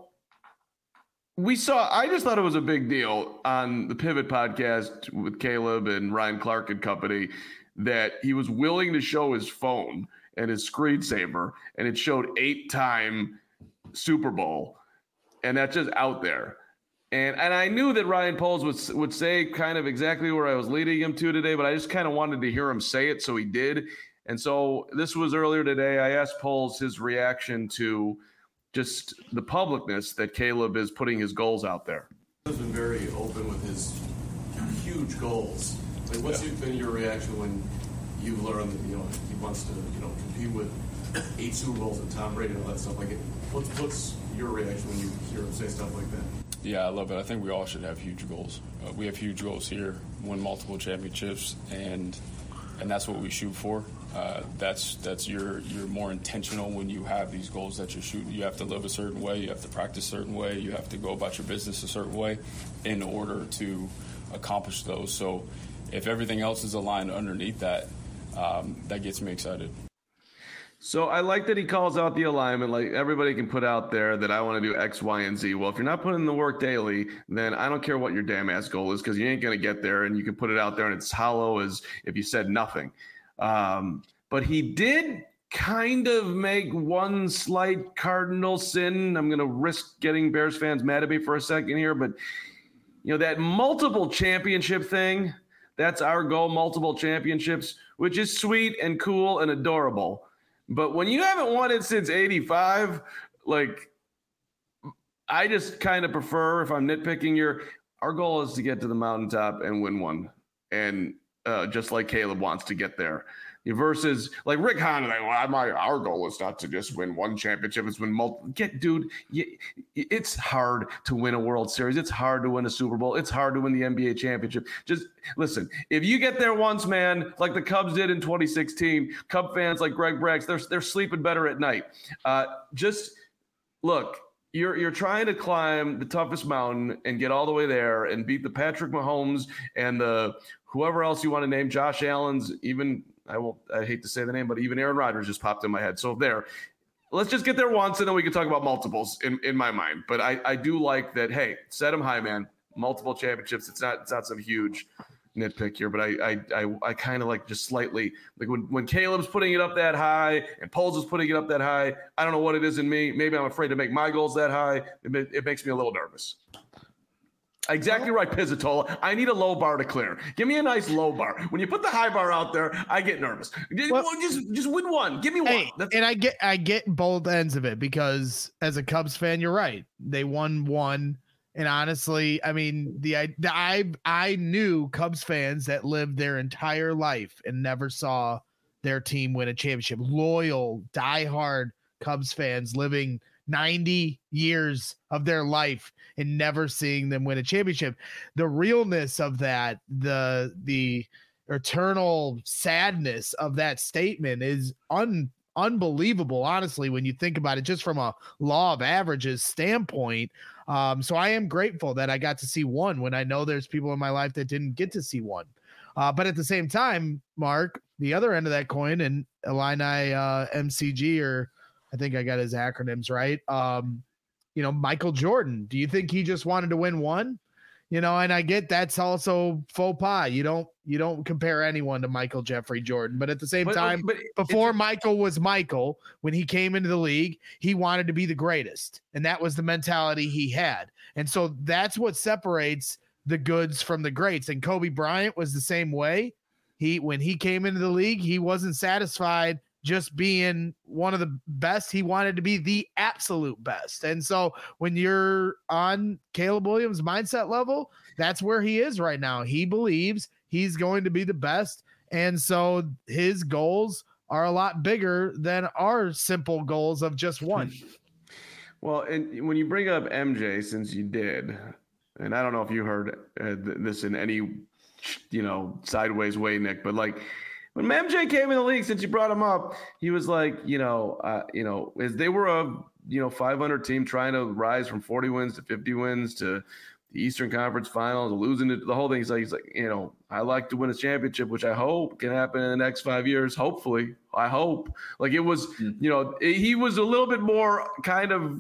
I just thought it was a big deal on the Pivot podcast with Caleb and Ryan Clark and company that he was willing to show his phone and his screensaver, and it showed 8-time Super Bowl. And that's just out there. And I knew that Ryan Poles would say kind of exactly where I was leading him to today, but I just kind of wanted to hear him say it, so he did. And so this was earlier today. I asked Poles his reaction to just the publicness that Caleb is putting his goals out there. He's been very open with his huge goals. Like, what's been your reaction when you learned that he wants to compete with 8 Super Bowls and Tom Brady and all that stuff? Like, what's your reaction when you hear him say stuff like that? Yeah, I love it. I think we all should have huge goals. We have huge goals here, win multiple championships, and that's what we shoot for. That's you're more intentional when you have these goals that you're shooting. You have to live a certain way. You have to practice a certain way. You have to go about your business a certain way in order to accomplish those. So if everything else is aligned underneath that, that gets me excited. So I like that he calls out the alignment. Like, everybody can put out there that I want to do X, Y, and Z. Well, if you're not putting in the work daily, then I don't care what your damn ass goal is, because you ain't going to get there, and you can put it out there and it's hollow as if you said nothing. But he did kind of make one slight cardinal sin. I'm going to risk getting Bears fans mad at me for a second here, but that multiple championship thing, that's our goal, multiple championships, which is sweet and cool and adorable. But when you haven't won it since 85, like, I just kind of prefer, if I'm nitpicking, our goal is to get to the mountaintop and win one. And just like Caleb wants to get there. Versus like Rick Hahn, our goal is not to just win one championship, it's win multiple. It's hard to win a World Series. It's hard to win a Super Bowl. It's hard to win the NBA championship. Just listen, if you get there once, man, like the Cubs did in 2016, Cub fans like Greg Braggs, they're sleeping better at night. Just look, you're trying to climb the toughest mountain and get all the way there and beat the Patrick Mahomes and the whoever else you want to name, Josh Allen's, even I hate to say the name, but even Aaron Rodgers just popped in my head. So let's just get there once, and then we can talk about multiples in my mind. But I do like that. Hey, set him high, man. Multiple championships. It's not some huge nitpick here, but I kind of like just slightly like when Caleb's putting it up that high and Poles is putting it up that high. I don't know what it is in me. Maybe I'm afraid to make my goals that high. It makes me a little nervous. Exactly right, Pizzatola. I need a low bar to clear. Give me a nice low bar. When you put the high bar out there, I get nervous. Just win one. Give me one. And I get both ends of it because as a Cubs fan, you're right. They won one. And honestly, I mean, I knew Cubs fans that lived their entire life and never saw their team win a championship. Loyal, diehard Cubs fans living 90 years of their life and never seeing them win a championship. The realness of that, the eternal sadness of that statement is unbelievable, honestly, when you think about it, just from a law of averages standpoint. So I am grateful that I got to see one when I know there's people in my life that didn't get to see one. But at the same time, Mark, the other end of that coin, and Illini MCG, or I think I got his acronyms right. Michael Jordan, do you think he just wanted to win one? And I get that's also faux pas. You don't compare anyone to Michael Jeffrey Jordan, but at the same time, before Michael was Michael, when he came into the league, he wanted to be the greatest, and that was the mentality he had. And so that's what separates the goods from the greats. And Kobe Bryant was the same way. When he came into the league, he wasn't satisfied just being one of the best. He wanted to be the absolute best. And so when you're on Caleb Williams' mindset level, that's where he is right now. He believes he's going to be the best. And so his goals are a lot bigger than our simple goals of just one. Well, and when you bring up MJ, since you did, and I don't know if you heard this in any, sideways way, Nick, but like, when MJ came in the league, since you brought him up, he was like, as they were a 500 team trying to rise from 40 wins to 50 wins to the Eastern Conference Finals, losing the whole thing. He's like, I like to win a championship, which I hope can happen in the next 5 years. Hopefully, I hope. Like it was, he was a little bit more kind of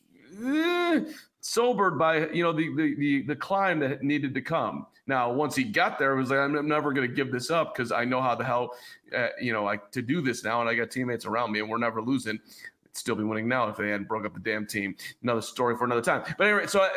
sobered by the climb that needed to come. Now, once he got there, it was like, I'm never going to give this up because I know how the hell, to do this now. And I got teammates around me and we're never losing. I'd still be winning now if they hadn't broke up the damn team. Another story for another time. But anyway, so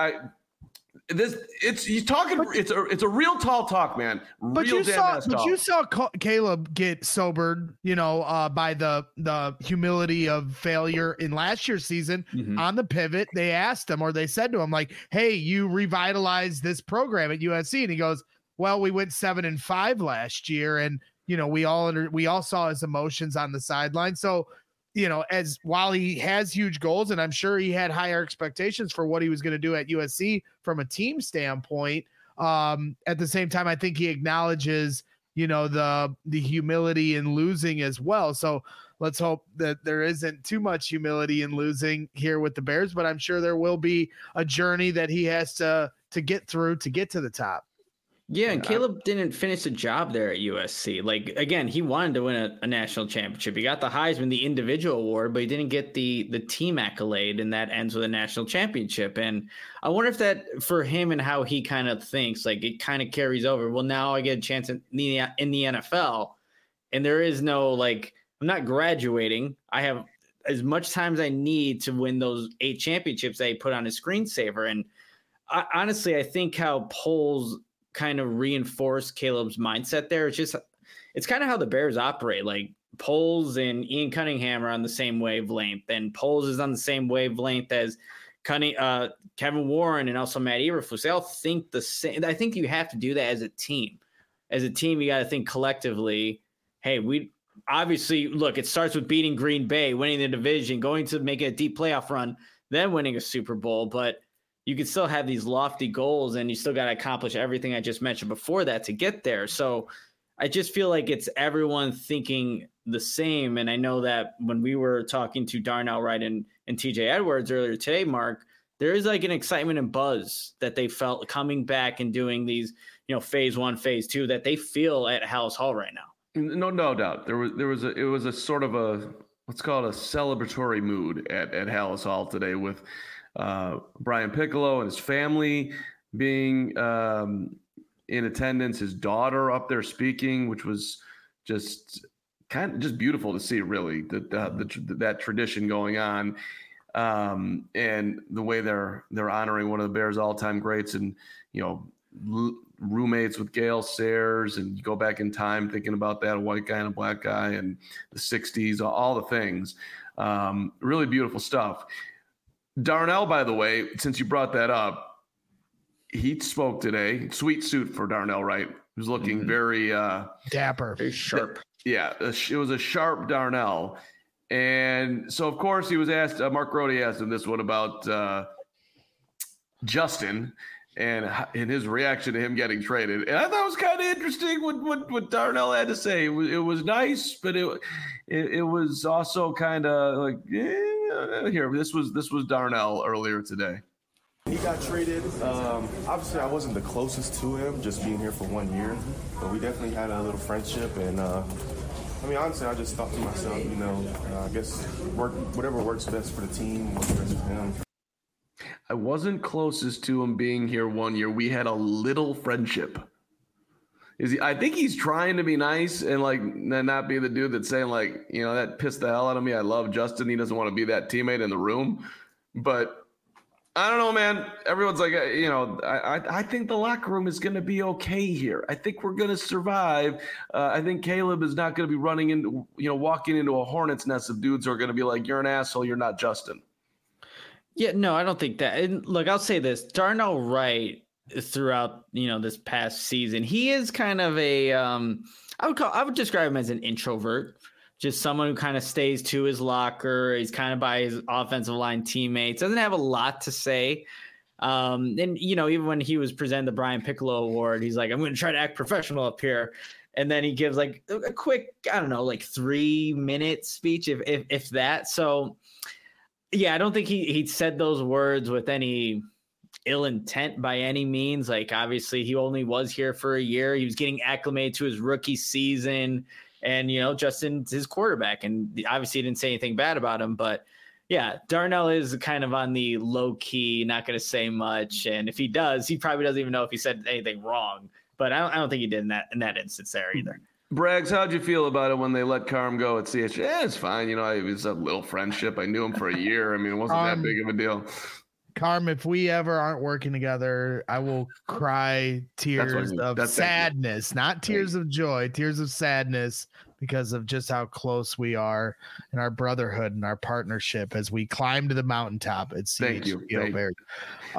it's a real tall talk, man. But you saw Caleb get sobered, by the humility of failure in last year's season. Mm-hmm. On the pivot. They asked him, or they said to him, like, "Hey, you revitalized this program at USC," and he goes, "Well, we went 7-5 last year, and we all saw his emotions on the sideline." So, while he has huge goals, and I'm sure he had higher expectations for what he was going to do at USC from a team standpoint, at the same time, I think he acknowledges, the humility in losing as well. So let's hope that there isn't too much humility in losing here with the Bears, but I'm sure there will be a journey that he has to get through to get to the top. Yeah, and Caleb didn't finish the job there at USC. Like, again, he wanted to win a national championship. He got the Heisman, the individual award, but he didn't get the team accolade, and that ends with a national championship. And I wonder if that, for him and how he kind of thinks, like it kind of carries over. Well, now I get a chance in the NFL, and there is no, like, I'm not graduating. I have as much time as I need to win those 8 championships that he put on his screensaver. And honestly, I think how Poles kind of reinforce Caleb's mindset there. It's kind of how the Bears operate. Like Poles and Ian Cunningham are on the same wavelength, and Poles is on the same wavelength as Kevin Warren and also Matt Eberflus. They all think the same. I think you have to do that as a team. As a team, you got to think collectively. Hey, we obviously look. It starts with beating Green Bay, winning the division, going to make a deep playoff run, then winning a Super Bowl. But you can still have these lofty goals, and you still got to accomplish everything I just mentioned before that to get there. So I just feel like it's everyone thinking the same. And I know that when we were talking to Darnell Wright and TJ Edwards earlier today, Mark, there is like an excitement and buzz that they felt coming back and doing these phase 1, phase 2 that they feel at Hallis Hall right now. No doubt. It was a sort of a, let's call it a celebratory mood at Hallis Hall today with Brian Piccolo and his family being in attendance, his daughter up there speaking, which was just beautiful to see, really, that tradition going on, and the way they're honoring one of the Bears' all-time greats, and roommates with Gale Sayers, and you go back in time thinking about that, a white guy and a black guy, and the 60s, all the things. Really beautiful stuff. Darnell, by the way, since you brought that up, he spoke today. Sweet suit for Darnell, right? He was looking very dapper, very sharp. Yeah, it was a sharp Darnell. And so, of course, he was asked, Mark Grody asked him this one about Justin and his reaction to him getting traded. And I thought it was kind of interesting what Darnell had to say. It was nice, but it was also kind of like, here, this was Darnell earlier today. He got traded. Obviously, I wasn't the closest to him, just being here for 1 year. But we definitely had a little friendship. And, honestly, I just thought to myself, I guess whatever works best for the team, works best for him. I wasn't closest to him being here 1 year. We had a little friendship. I think he's trying to be nice and not be the dude that's saying that pissed the hell out of me. I love Justin. He doesn't want to be that teammate in the room. But I don't know, man. Everyone's like, I think the locker room is going to be okay here. I think we're going to survive. I think Caleb is not going to be running into, walking into a hornet's nest of dudes who are going to be like, you're an asshole. You're not Justin. Yeah, no, I don't think that. And look, I'll say this: Darnell Wright throughout this past season, he is kind of a I would describe him as an introvert, just someone who kind of stays to his locker. He's kind of by his offensive line teammates, doesn't have a lot to say. And even when he was presented the Brian Piccolo Award, he's like, I'm going to try to act professional up here. And then he gives a quick, 3-minute speech, if that. So yeah, I don't think he said those words with any ill intent by any means. Obviously he only was here for a year. He was getting acclimated to his rookie season, and Justin's his quarterback, and obviously he didn't say anything bad about him. But yeah, Darnell is kind of on the low key, not going to say much. And if he does, he probably doesn't even know if he said anything wrong. But I don't think he did in that instance there either. Braggs, how'd you feel about it when they let Carm go at CH? Yeah, it's fine. It was a little friendship. I knew him for a year. It wasn't that big of a deal. Carm, if we ever aren't working together, I will cry tears of sadness, not tears of joy, tears of sadness, because of just how close we are in our brotherhood and our partnership as we climb to the mountaintop at CH. Thank you. Bears. Go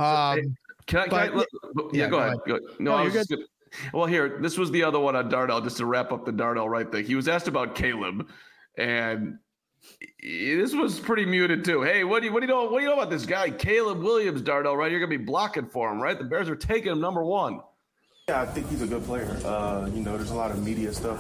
ahead. No, you're good. Well, here, this was the other one on Darnell, just to wrap up the Darnell Wright thing. He was asked about Caleb, and this was pretty muted too. Hey, what do you know about this guy, Caleb Williams, Darnell, right? You're going to be blocking for him, right? The Bears are taking him number 1. Yeah, I think he's a good player. There's a lot of media stuff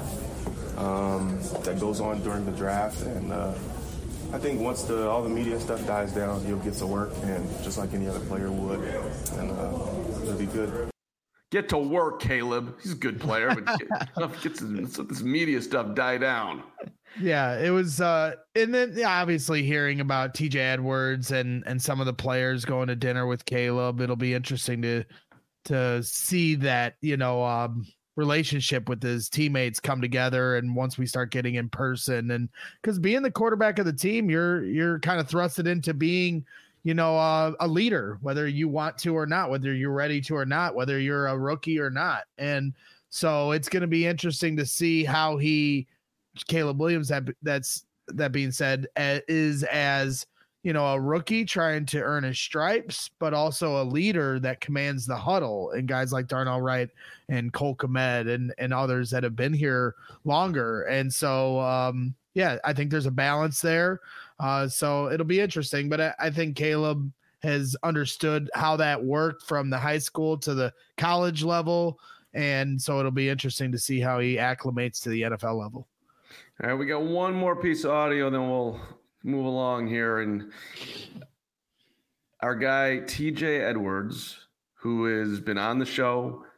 that goes on during the draft, and I think once all the media stuff dies down, he'll get to work, and just like any other player would, and it'll be good. Get to work, Caleb. He's a good player, but let this media stuff die down. Yeah, it was, and then obviously hearing about TJ Edwards and some of the players going to dinner with Caleb. It'll be interesting to see that relationship with his teammates come together, and once we start getting in person, and because being the quarterback of the team, you're kind of thrusted into being a leader, whether you want to or not, whether you're ready to or not, whether you're a rookie or not. And so it's going to be interesting to see how Caleb Williams, that being said, is as a rookie trying to earn his stripes, but also a leader that commands the huddle, and guys like Darnell Wright and Cole Kmet and others that have been here longer. And so, I think there's a balance there. So it'll be interesting, but I think Caleb has understood how that worked from the high school to the college level. And so it'll be interesting to see how he acclimates to the NFL level. All right, we got one more piece of audio, then we'll move along here. And our guy, TJ Edwards, who has been on the show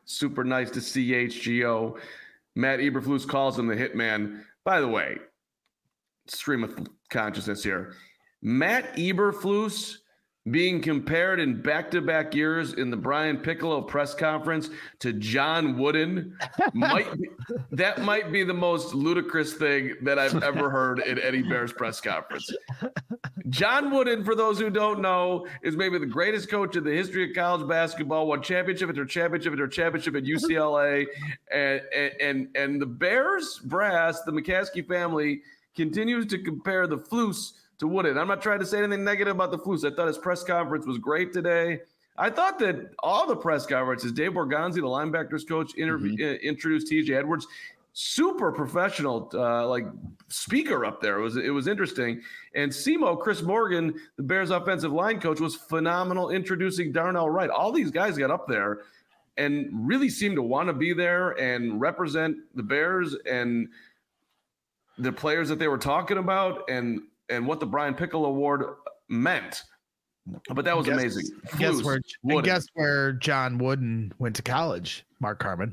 super nice to CHGO. Matt Eberflus calls him the hitman. By the way, stream of consciousness here. Matt Eberflus being compared in back-to-back years in the Brian Piccolo press conference to John Wooden might be the most ludicrous thing that I've ever heard in any Bears press conference. John Wooden, for those who don't know, is maybe the greatest coach in the history of college basketball, won championship after championship after championship at UCLA. And the Bears brass, the McCaskey family, continues to compare the Flus to Wooden. I'm not trying to say anything negative about the Flus. I thought his press conference was great today. I thought that all the press conferences, Dave Borgonzi, the linebackers coach, introduced TJ Edwards. Super professional, speaker up there. It was interesting. And Simo, Chris Morgan, the Bears offensive line coach, was phenomenal introducing Darnell Wright. All these guys got up there and really seemed to want to be there and represent the Bears and the players that they were talking about and what the Brian Piccolo Award meant. But that was amazing. Guess where John Wooden went to college, Mark Carman?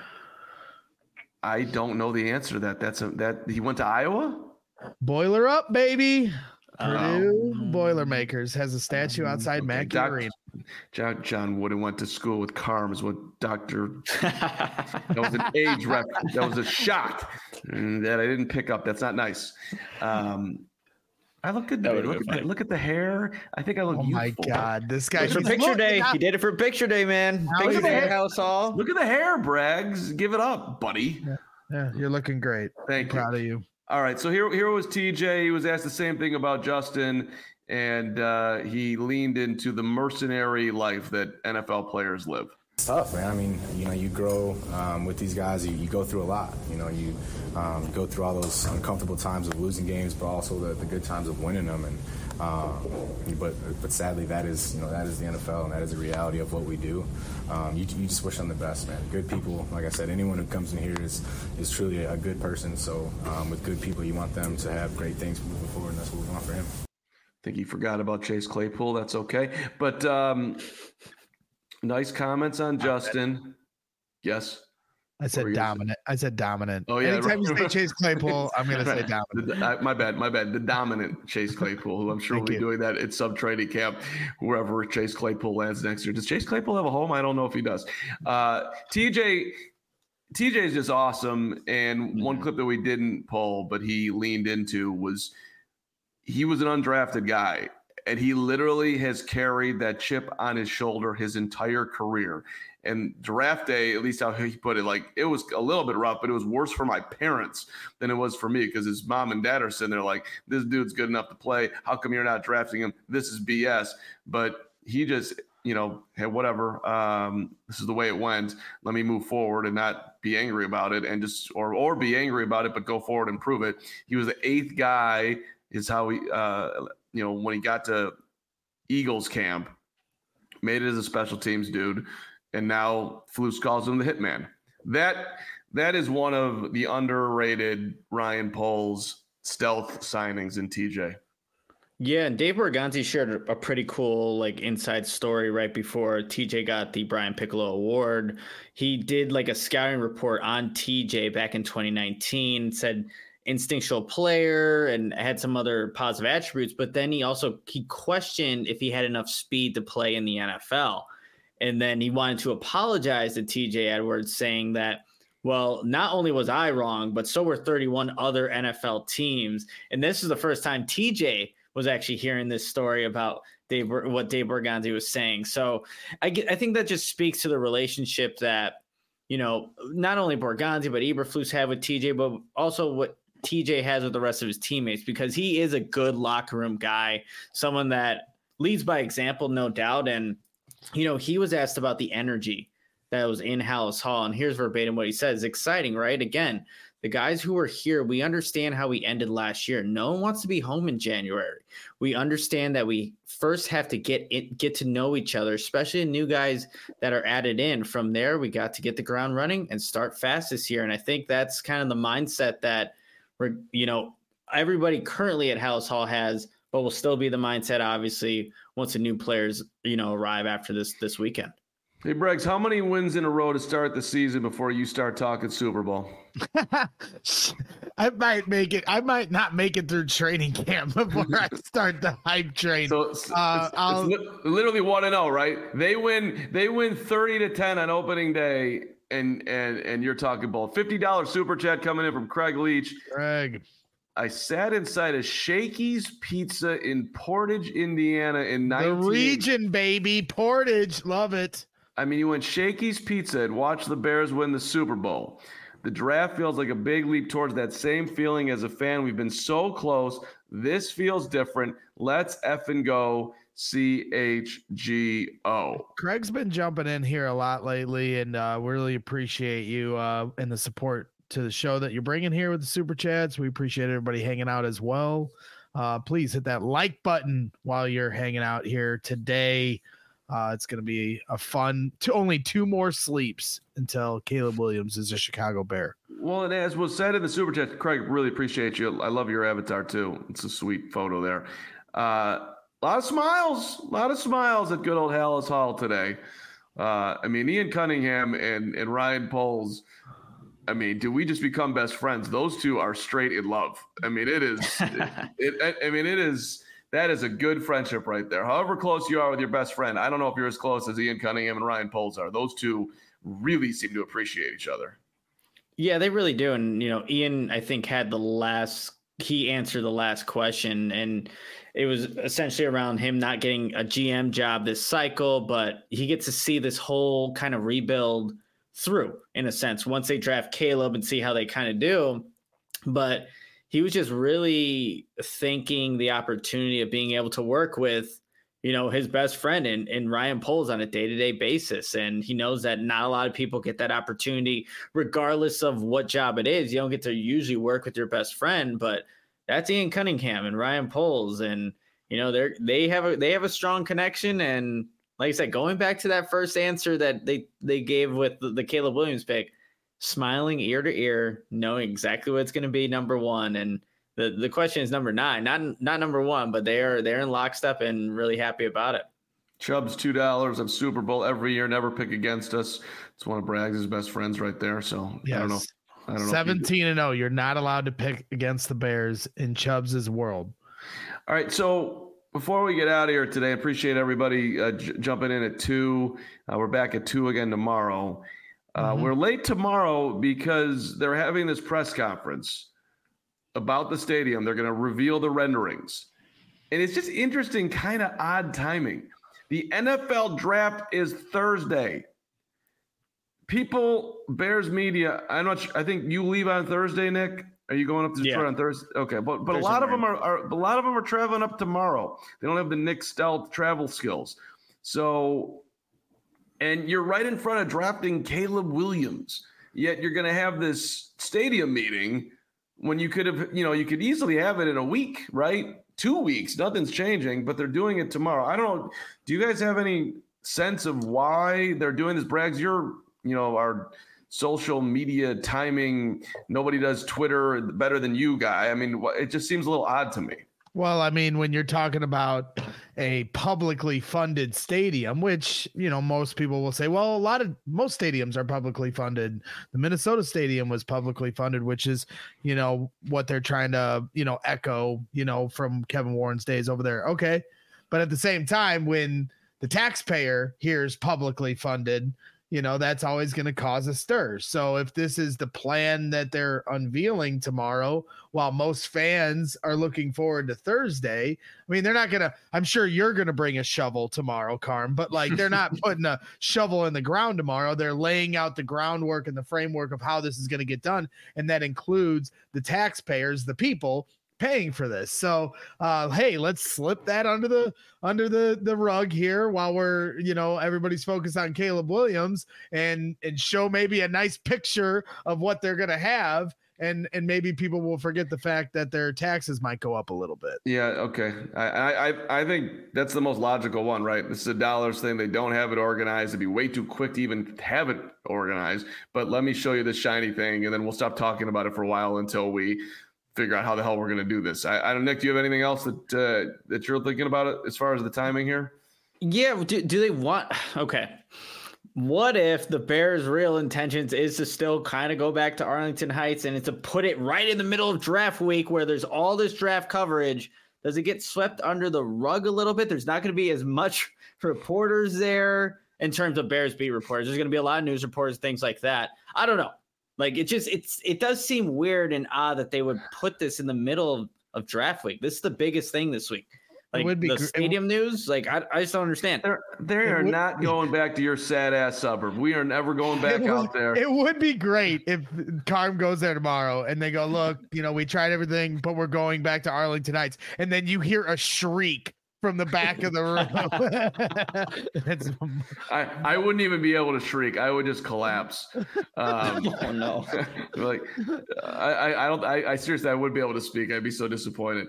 I don't know the answer to that. He went to Iowa? Boiler up, baby. Purdue Boilermakers has a statue outside Mackey Arena. John Wooden went to school with Carm is what Dr. That was an age rep. That was a shot that I didn't pick up. That's not nice. I look good. Look at the hair. I think I look youthful. My God, this guy for picture day. He did it for picture day, man. Picture day at House Hall. Look at the hair, Braggs. Give it up, buddy. Yeah, you're looking great. Thank you. Proud of you. All right, so here was TJ. He was asked the same thing about Justin, and he leaned into the mercenary life that NFL players live. It's tough, man. I mean, you grow with these guys. You go through a lot. You go through all those uncomfortable times of losing games, but also the good times of winning them. And but sadly, that is the NFL, and that is the reality of what we do. You just wish them the best, man. Good people, like I said, anyone who comes in here is truly a good person. So with good people, you want them to have great things moving forward, and that's what we want for him. I think he forgot about Chase Claypool. That's okay, but. Nice comments on Justin. Yes. I said dominant. Oh, yeah. Anytime you say Chase Claypool, I'm going to say dominant. My bad. The dominant Chase Claypool, who I'm sure will be doing that at sub training camp, wherever Chase Claypool lands next year. Does Chase Claypool have a home? I don't know if he does. TJ is just awesome. And one clip that we didn't pull, but he leaned into was he was an undrafted guy. And he literally has carried that chip on his shoulder his entire career. And draft day, at least how he put it, it was a little bit rough, but it was worse for my parents than it was for me because his mom and dad are sitting there like, this dude's good enough to play. How come you're not drafting him? This is BS. But he just, hey, whatever. This is the way it went. Let me move forward and not be angry about it and just or be angry about it, but go forward and prove it. He was the 8th guy is how he when he got to Eagles camp, made it as a special teams dude, and now Flus calls him the hitman. That is one of the underrated Ryan Poles stealth signings in TJ. Yeah, and Dave Borgonzi shared a pretty cool inside story right before TJ got the Brian Piccolo Award. He did a scouting report on TJ back in 2019, said instinctual player and had some other positive attributes, but then he questioned if he had enough speed to play in the NFL. And then he wanted to apologize to TJ Edwards, saying that, well, not only was I wrong, but so were 31 other NFL teams. And this is the first time TJ was actually hearing this story about what Dave Borgonzi was saying. So I think that just speaks to the relationship that, not only Borgonzi, but Eberflus had with TJ, but also what TJ has with the rest of his teammates, because he is a good locker room guy, someone that leads by example, no doubt. And, he was asked about the energy that was in Halas Hall, and here's verbatim what he says. Exciting, right? Again, the guys who are here, we understand how we ended last year. No one wants to be home in January. We understand that we first have to get to know each other, especially the new guys that are added in. From there, we got to get the ground running and start fast this year. And I think that's kind of the mindset that everybody currently at Halas Hall has, but will still be the mindset, obviously, once the new players, arrive after this weekend. Hey, Braggs, how many wins in a row to start the season before you start talking Super Bowl? I might make it. I might not make it through training camp before I start the hype train. So it's literally 1-0, right? They win 30-10 on opening day, and you're talking ball. $50 super chat coming in from Craig Leach. Craig, I sat inside a Shakey's Pizza in Portage, Indiana in the region, baby. Portage, love it. I mean, you went Shakey's Pizza and watched the Bears win the Super Bowl. The draft feels like a big leap towards that same feeling as a fan. We've been so close. This feels different. Let's effing go CHGO. Craig's been jumping in here a lot lately, and we really appreciate you and the support to the show that you're bringing here with the super chats. We appreciate everybody hanging out as well. Please hit that like button while you're hanging out here today. It's going to be a fun only 2 more sleeps until Caleb Williams is a Chicago Bear. Well, and as was said in the super chat, Craig, really appreciate you. I love your avatar too. It's a sweet photo there. A lot of smiles at good old Hallis Hall today. I mean, Ian Cunningham and Ryan Poles. I mean, do we just become best friends? Those two are straight in love. I mean, it is. That is a good friendship right there. However close you are with your best friend, I don't know if you're as close as Ian Cunningham and Ryan Poles are. Those two really seem to appreciate each other. Yeah, they really do. And, Ian, I think, he answered the last question, and it was essentially around him not getting a GM job this cycle, but he gets to see this whole kind of rebuild through, in a sense, once they draft Caleb and see how they kind of do. But he was just really thanking the opportunity of being able to work with, his best friend and Ryan Poles on a day-to-day basis. And he knows that not a lot of people get that opportunity, regardless of what job it is. You don't get to usually work with your best friend, but that's Ian Cunningham and Ryan Poles. And, they have a strong connection. And like I said, going back to that first answer that they gave with the Caleb Williams pick, smiling ear to ear, knowing exactly what's going to be number 1. And the question is number 9, not number 1, but they're in lockstep and really happy about it. Chubb's $2 of Super Bowl every year. Never pick against us. It's one of Braggs' best friends right there. So yes. I don't know. 17-0. You're not allowed to pick against the Bears in Chubbs' world. All right. So before we get out of here today, I appreciate everybody jumping in at 2. We're back at 2 again tomorrow. We're late tomorrow because they're having this press conference about the stadium. They're going to reveal the renderings. And it's just interesting, kind of odd timing. The NFL draft is Thursday. People, Bears media, I think you leave on Thursday, Nick. Are you going up to Detroit on Thursday? Okay, but a lot of them are traveling up tomorrow. They don't have the Nick Stealth travel skills. So, and you're right in front of drafting Caleb Williams. Yet you're going to have this stadium meeting when you could have, you could easily have it in a week, right? 2 weeks, nothing's changing, but they're doing it tomorrow. I don't know. Do you guys have any sense of why they're doing this? Braggs, you're, our social media timing. Nobody does Twitter better than you, guy. I mean, it just seems a little odd to me. Well, I mean, when you're talking about a publicly funded stadium, which, most people will say, well, most stadiums are publicly funded. The Minnesota Stadium was publicly funded, which is, what they're trying to, echo, from Kevin Warren's days over there. Okay. But at the same time, when the taxpayer hears publicly funded, that's always going to cause a stir. So if this is the plan that they're unveiling tomorrow, while most fans are looking forward to Thursday, I mean, they're not going to, I'm sure you're going to bring a shovel tomorrow, Carm, but they're not putting a shovel in the ground tomorrow. They're laying out the groundwork and the framework of how this is going to get done. And that includes the taxpayers, the people paying for this. So hey, let's slip that under the rug here while we're, everybody's focused on Caleb Williams and show maybe a nice picture of what they're going to have. And maybe people will forget the fact that their taxes might go up a little bit. Yeah. Okay. I think that's the most logical one, right? This is a dollars thing. They don't have it organized. It'd be way too quick to even have it organized, but let me show you this shiny thing and then we'll stop talking about it for a while until we figure out how the hell we're going to do this. I don't, Nick, do you have anything else that you're thinking about it as far as the timing here? Yeah. Do they want, okay. What if the Bears' real intentions is to still kind of go back to Arlington Heights and to put it right in the middle of draft week where there's all this draft coverage? Does it get swept under the rug a little bit? There's not going to be as much reporters there in terms of Bears beat reporters. There's going to be a lot of news reporters, things like that. I don't know. Like it does seem weird and odd that they would put this in the middle of draft week. This is the biggest thing this week. Like the stadium news, like I just don't understand. They are not going back to your sad ass suburb. We are never going back out there. It would be great if Carm goes there tomorrow and they go, look, we tried everything, but we're going back to Arlington Heights, and then you hear a shriek from the back of the room. I wouldn't even be able to shriek. I would just collapse. Oh no! Like I seriously, I wouldn't be able to speak. I'd be so disappointed.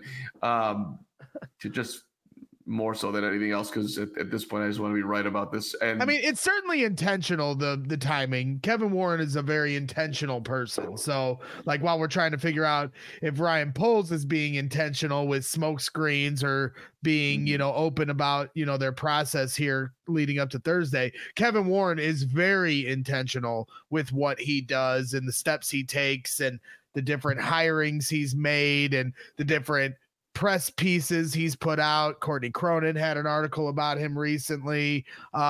To just more so than anything else, because at this point I just want to be right about this. And I mean, it's certainly intentional, the timing. Kevin Warren is a very intentional person. So like while we're trying to figure out if Ryan Poles is being intentional with smoke screens or being open about their process here leading up to Thursday, Kevin Warren is very intentional with what he does and the steps he takes and the different hirings he's made and the different press pieces he's put out. Courtney Cronin had an article about him recently.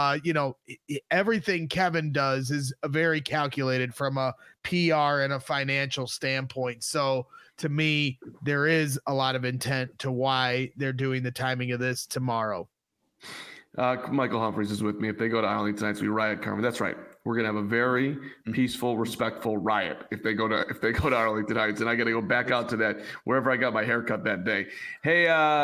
Everything Kevin does is very calculated from a PR and a financial standpoint. So to me, there is a lot of intent to why they're doing the timing of this tomorrow. Michael Humphreys is with me. If they go to Arlington Heights, we riot, Carmen. That's right. We're gonna have a very peaceful, respectful riot if they go to Arlington Heights, and I got to go back out to that wherever I got my haircut that day. Hey,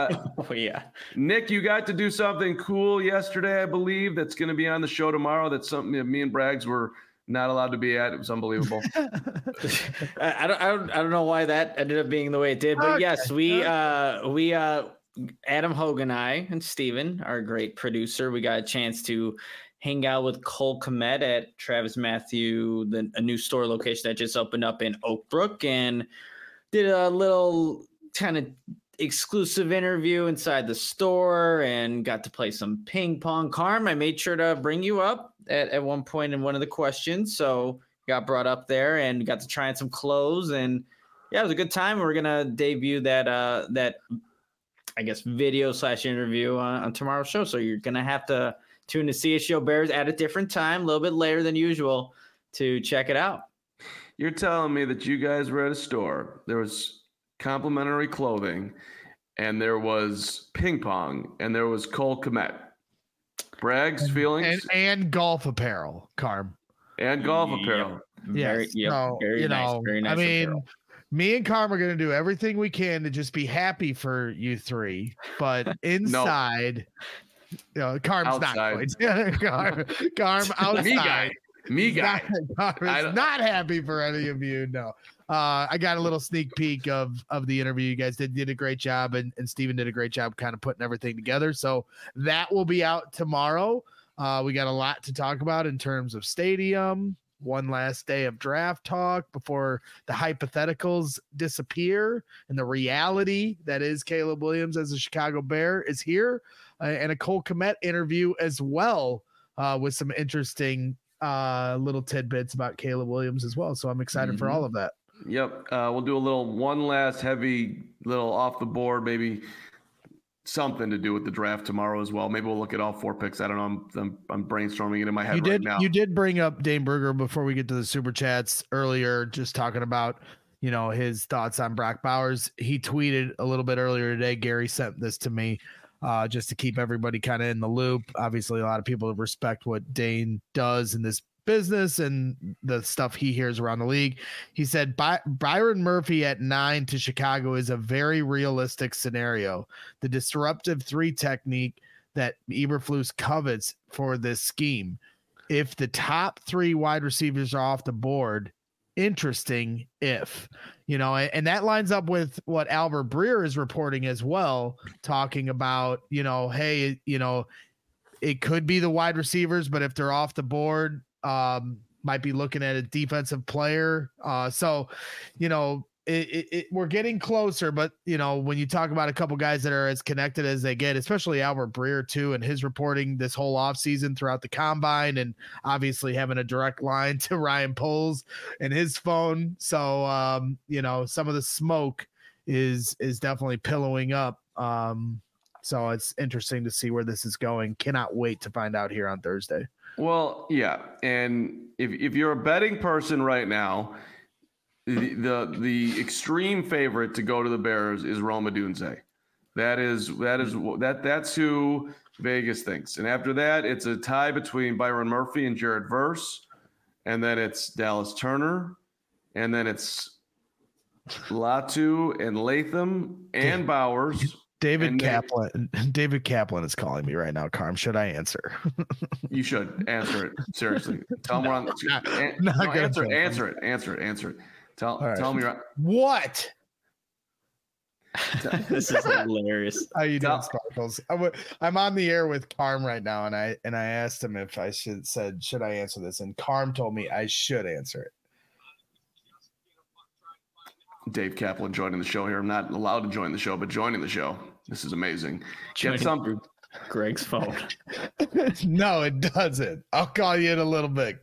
Nick, you got to do something cool yesterday, I believe. That's going to be on the show tomorrow. That's something that me and Braggs were not allowed to be at. It was unbelievable. I don't know why that ended up being the way it did, but yes, we Adam Hogue and I and Steven, our great producer, we got a chance to hang out with Cole Kmet at Travis Matthew, a new store location that just opened up in Oak Brook, and did a little kind of exclusive interview inside the store and got to play some ping pong. Carm, I made sure to bring you up at one point in one of the questions, so got brought up there and got to try on some clothes, and yeah, it was a good time. We're gonna debut that I guess video / interview on tomorrow's show, so you're gonna have to tune to CHGO Bears at a different time, a little bit later than usual, to check it out. You're telling me that you guys were at a store, there was complimentary clothing, and there was ping pong, and there was Cole Kmet. Braggs, feelings? And golf apparel, Carm. And golf apparel. Yes. Very nice. I mean, apparel. Me and Carm are going to do everything we can to just be happy for you three, but inside... Carm's outside. Not going. Carm outside. Me guy. Carm is not happy for any of you. No. I got a little sneak peek of the interview. You guys did a great job, and Steven did a great job kind of putting everything together. So that will be out tomorrow. We got a lot to talk about in terms of stadium. One last day of draft talk before the hypotheticals disappear and the reality that is Caleb Williams as a Chicago Bear is here, and a Cole Kmet interview as well, with some interesting little tidbits about Caleb Williams as well. So I'm excited for all of that. Yep. We'll do one last heavy little off the board, maybe something to do with the draft tomorrow as well. Maybe we'll look at all 4 picks. I don't know. I'm brainstorming it in my head right now. You did bring up Dane Berger before we get to the super chats earlier, just talking about, his thoughts on Brock Bowers. He tweeted a little bit earlier today. Gary sent this to me just to keep everybody kind of in the loop. Obviously, a lot of people respect what Dane does in this business and the stuff he hears around the league. He said Byron Murphy at 9 to Chicago is a very realistic scenario. The disruptive 3 technique that Eberflus covets for this scheme. If the top 3 wide receivers are off the board, interesting if, and that lines up with what Albert Breer is reporting as well, talking about, hey, it could be the wide receivers, but if they're off the board, might be looking at a defensive player. So, we're getting closer, but when you talk about a couple guys that are as connected as they get, especially Albert Breer too, and his reporting this whole offseason throughout the combine, and obviously having a direct line to Ryan Poles and his phone. So, some of the smoke is definitely pillowing up. So it's interesting to see where this is going. Cannot wait to find out here on Thursday. Well, yeah. And if you're a betting person right now, the extreme favorite to go to the Bears is Rome Odunze. That's who Vegas thinks. And after that, it's a tie between Byron Murphy and Jared Verse, and then it's Dallas Turner, and then it's Latu and Latham and Bowers. David Kaplan is calling me right now. Carm, should I answer? You should answer it. Seriously. Tell him we're on. Answer it. Tell me. What? This is hilarious. How you doing, Sparkles? I'm on the air with Carm right now, and I asked him if I should I answer this, and Carm told me I should answer it. Dave Kaplan joining the show here. I'm not allowed to join the show, but joining the show. This is amazing. Get some Greg's phone. No, it doesn't. I'll call you in a little bit.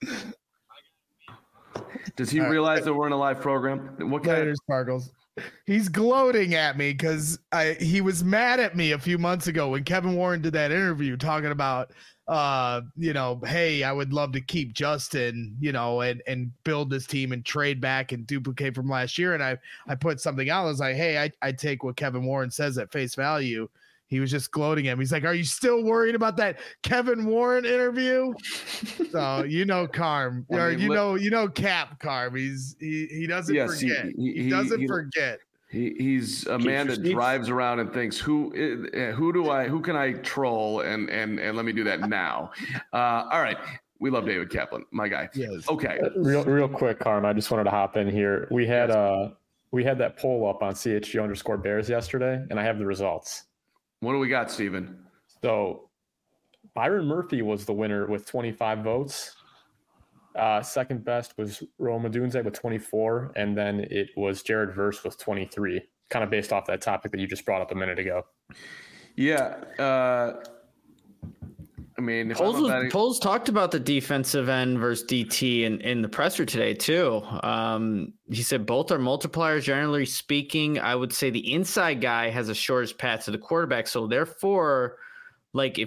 Does he realize that we're in a live program? What kind of Sparkles? He's gloating at me because he was mad at me a few months ago when Kevin Warren did that interview talking about hey, I would love to keep Justin, and build this team and trade back and duplicate from last year. And I put something out. I was like, hey, I take what Kevin Warren says at face value. He was just gloating at me. He's like, are you still worried about that Kevin Warren interview? So, Carm, or Cap Carm. He doesn't forget. He doesn't forget. He's a man that drives around and thinks, who can I troll and let me do that now. All right. We love David Kaplan, my guy. Yes. Okay. Real quick, Carm, I just wanted to hop in here. We had that poll up on CHG_Bears yesterday, and I have the results. What do we got, Steven? So Byron Murphy was the winner with 25 votes. Second best was Rome Odunze with 24, and then it was Jared Verse with 23, kind of based off that topic that you just brought up a minute ago. Yeah. Poles talked about the defensive end versus DT in the presser today too. He said both are multipliers. Generally speaking, I would say the inside guy has a shortest path to the quarterback. So therefore, like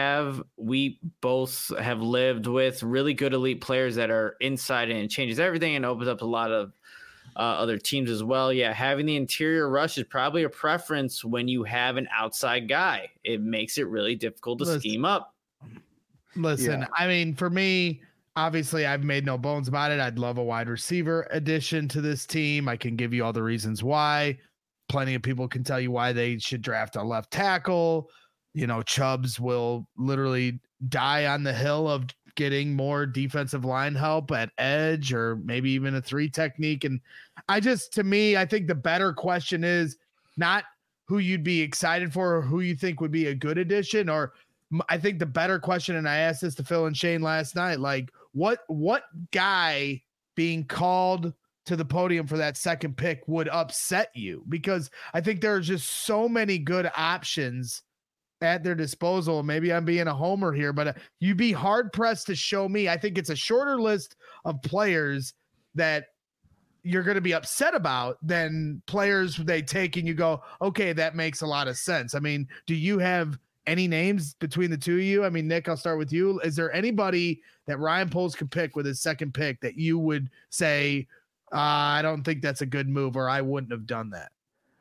we both have lived with really good elite players that are inside, and it changes everything and opens up a lot of other teams as well. Yeah, having the interior rush is probably a preference when you have an outside guy. It makes it really difficult to scheme up. Listen, yeah. For me, obviously, I've made no bones about it. I'd love a wide receiver addition to this team. I can give you all the reasons why. Plenty of people can tell you why they should draft a left tackle. Chubbs will literally die on the hill of getting more defensive line help at edge or maybe even a 3 technique. And I think the better question is not who you'd be excited for or who you think would be a good addition, or I think the better question, and I asked this to Phil and Shane last night, like what guy being called to the podium for that second pick would upset you? Because I think there are just so many good options at their disposal. Maybe I'm being a homer here, but you'd be hard pressed to show me. I think it's a shorter list of players that you're going to be upset about than players they take and you go, okay, that makes a lot of sense. Do you have any names between the two of you? Nick, I'll start with you. Is there anybody that Ryan Poles could pick with his second pick that you would say, I don't think that's a good move, or I wouldn't have done that?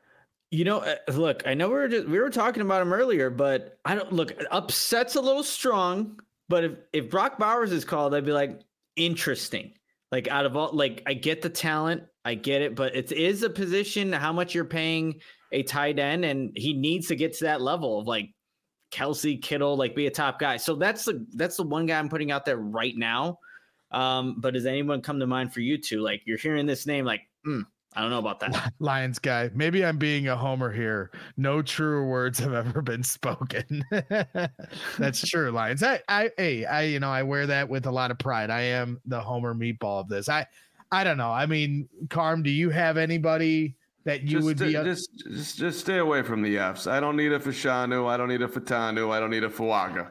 Look, I know we were talking about him earlier, but upset's a little strong, but if Brock Bowers is called, I'd be like, interesting. Like out of all, like I get the talent, I get it, but it is a position, how much you're paying a tight end, and he needs to get to that level of like Kelsey, Kittle, like be a top guy. So that's the one guy I'm putting out there right now. But does anyone come to mind for you two? Like you're hearing this name, like, I don't know about that. Lions guy. Maybe I'm being a homer here. No truer words have ever been spoken. That's true, Lions. I wear that with a lot of pride. I am the homer meatball of this. I don't know. I mean, Carm, do you have anybody that you would be just stay away from the Fs. I don't need a Fashanu. I don't need a Fatanu. I don't need a Fuaga.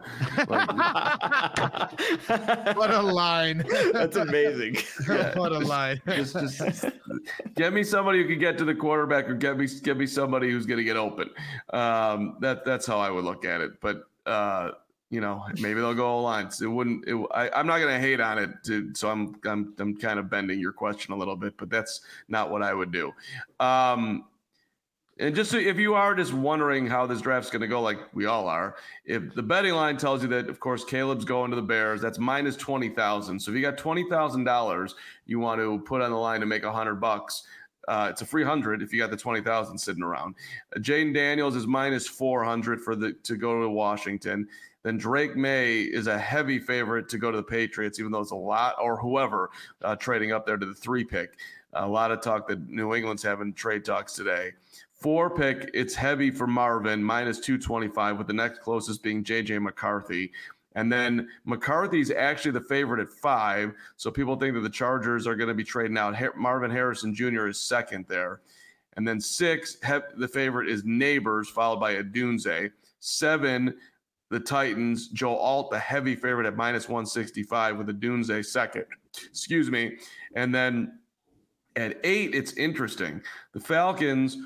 What a line. That's amazing. Yeah. What a line. Just get me somebody who can get to the quarterback, or get me somebody who's going to get open. That's how I would look at it. But maybe they'll go lines. I'm not going to hate on it. So I'm kind of bending your question a little bit, but that's not what I would do. And just so, if you are just wondering how this draft's going to go, like we all are, if the betting line tells you that, of course, Caleb's going to the Bears, that's minus 20,000. So if you got $20,000 you want to put on the line to make $100, it's a free 100 if you got the 20,000 sitting around. Jaden Daniels is minus 400 to go to Washington. Then Drake May is a heavy favorite to go to the Patriots, even though it's a lot, or whoever trading up there to the 3 pick. A lot of talk that New England's having trade talks today. 4 pick, it's heavy for Marvin, minus 225, with the next closest being J.J. McCarthy. And then McCarthy's actually the favorite at 5, so people think that the Chargers are going to be trading out. Marvin Harrison Jr. is second there. And then 6, the favorite is Neighbors, followed by Adunze. 7, the Titans, Joe Alt, the heavy favorite at minus 165, with Adunze second. Excuse me. And then at 8, it's interesting. The Falcons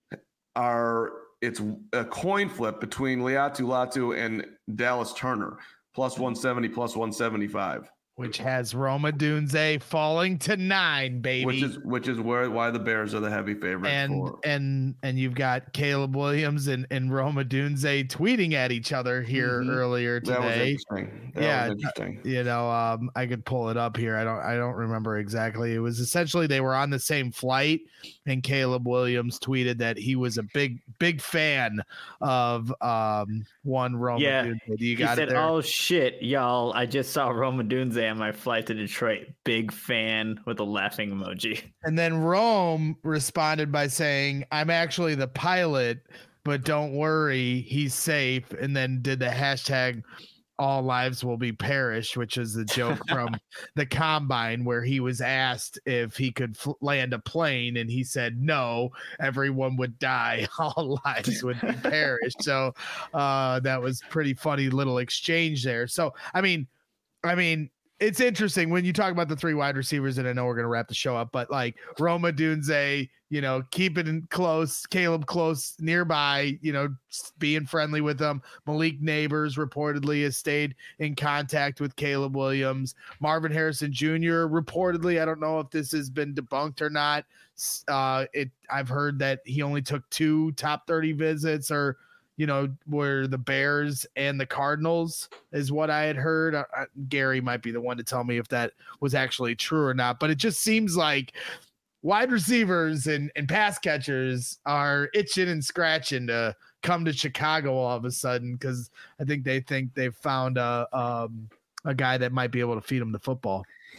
it's a coin flip between Liatu Latu and Dallas Turner, plus 170, plus 175. Which has Roma Dunze falling to 9, baby. Which is why the Bears are the heavy favorite. And you've got Caleb Williams and Roma Dunze tweeting at each other here earlier today. That was interesting. That was interesting. I could pull it up here. I don't remember exactly. It was essentially they were on the same flight, and Caleb Williams tweeted that he was a big fan of one Roma Dunze. He said, "Oh shit, y'all! I just saw Roma Dunze on my flight to Detroit. Big fan," with a laughing emoji. And then Rome responded by saying, "I'm actually the pilot, but don't worry, he's safe." And then did the hashtag "all lives will be perished," which is the joke from the Combine, where he was asked if he could land a plane, and he said no, everyone would die, all lives would be perished. So that was pretty funny little exchange there. So I mean it's interesting when you talk about the 3 wide receivers, and I know we're going to wrap the show up, but like Roma Dunze, keep it in close, Caleb close nearby, being friendly with them. Malik Neighbors reportedly has stayed in contact with Caleb Williams. Marvin Harrison Jr. reportedly, I don't know if this has been debunked or not. I've heard that he only took 2 top 30 visits, or were the Bears and the Cardinals, is what I had heard. Gary might be the one to tell me if that was actually true or not, but it just seems like wide receivers and pass catchers are itching and scratching to come to Chicago all of a sudden, because I think they've found a guy that might be able to feed them the football.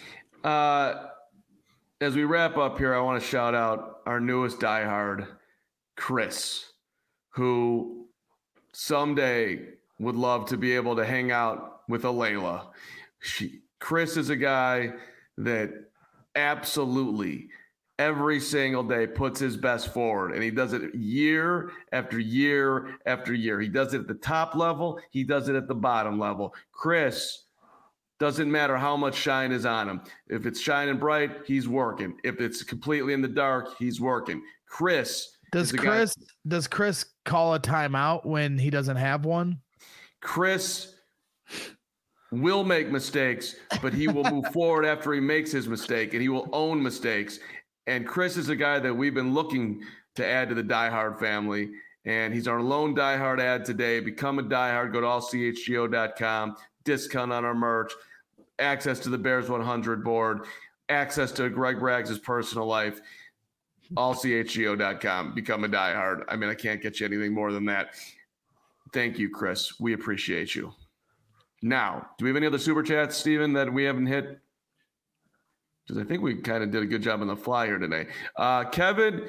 As we wrap up here, I want to shout out our newest diehard, Chris, who someday would love to be able to hang out with a Layla. Chris is a guy that absolutely every single day puts his best forward, and he does it year after year after year. He does it at the top level. He does it at the bottom level. Chris, doesn't matter how much shine is on him. If it's shining bright, he's working. If it's completely in the dark, he's working. Does Chris call a timeout when he doesn't have one? Chris will make mistakes, but he will move forward after he makes his mistake, and he will own mistakes. And Chris is a guy that we've been looking to add to the diehard family, and he's our lone diehard ad today. Become a diehard. Go to allchgo.com. Discount on our merch, access to the Bears 100 board, access to Greg Braggs' personal life. allchgo.com. Become a diehard. I mean, I can't get you anything more than that. Thank you, Chris. We appreciate you. Now, do we have any other super chats, Steven, that we haven't hit? Because I think we kind of did a good job on the fly here today. Kevin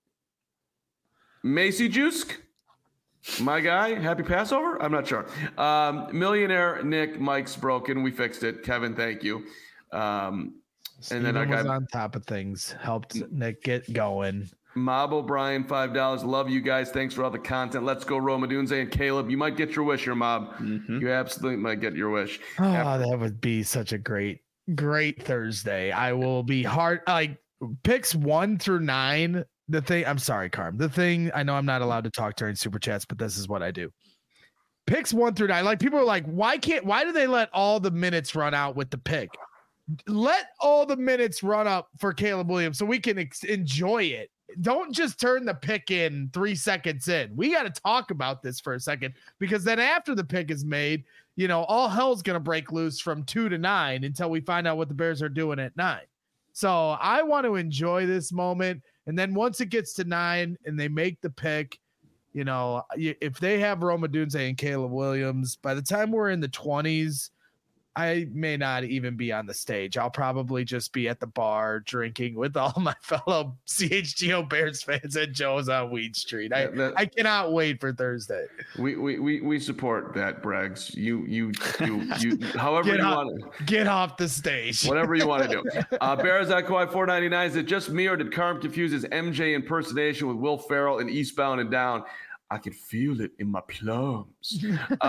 Macy Juice, my guy, happy Passover? I'm not sure. Millionaire Nick, Mike's broken. We fixed it. Kevin, thank you. And then I was on top of things, helped Nick get going. Mob O'Brien, $5. Love you guys. Thanks for all the content. Let's go, Rome Odunze and Caleb. You might get your wish here, Mob. Mm-hmm. You absolutely might get your wish. Oh, that would be such a great Thursday. I will be picks 1 through 9. The thing, I'm sorry, Carm. The thing, I know I'm not allowed to talk during super chats, but this is what I do. Picks 1 through 9. Like, people are like, why do they let all the minutes run out with the pick? Let all the minutes run up for Caleb Williams so we can enjoy it. Don't just turn the pick in 3 seconds in. We got to talk about this for a second, because then after the pick is made, all hell's going to break loose from 2 to 9 until we find out what the Bears are doing at 9. So I want to enjoy this moment. And then once it gets to 9 and they make the pick, if they have Rome Odunze and Caleb Williams, by the time we're in the 20s, I may not even be on the stage. I'll probably just be at the bar drinking with all my fellow CHGO Bears fans at Joe's on Weed Street. I cannot wait for Thursday. We support that, Braggs. You however you want to get off the stage. Whatever you want to do. Bears at Kawhi $4.99. Is it just me, or did Carm confuse his MJ impersonation with Will Ferrell in Eastbound and Down? I could feel it in my plums.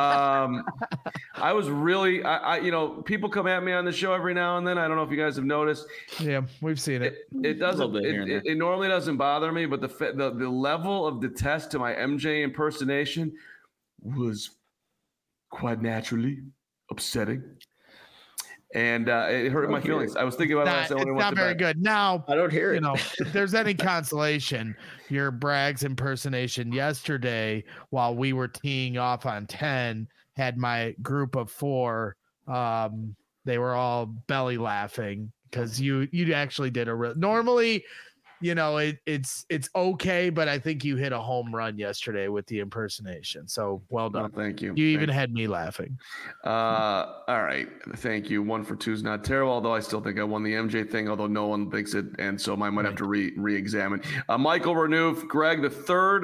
I was really, people come at me on the show every now and then. I don't know if you guys have noticed. Yeah, we've seen it. It doesn't. It normally doesn't bother me, but the level of detest to my MJ impersonation was quite naturally upsetting. And it hurt my feelings. I was thinking about it. It's not very good. Now, I don't hear it. If there's any consolation, your Braggs impersonation yesterday, while we were teeing off on 10, had my group of 4. They were all belly laughing because you actually did normally. It's okay, but I think you hit a home run yesterday with the impersonation. So well done. Oh, thank you. You even had me laughing. All right. Thank you. 1 for 2 is not terrible, although I still think I won the MJ thing, although no one thinks it. And so I might have to re-examine. Michael Renouf, Greg, the third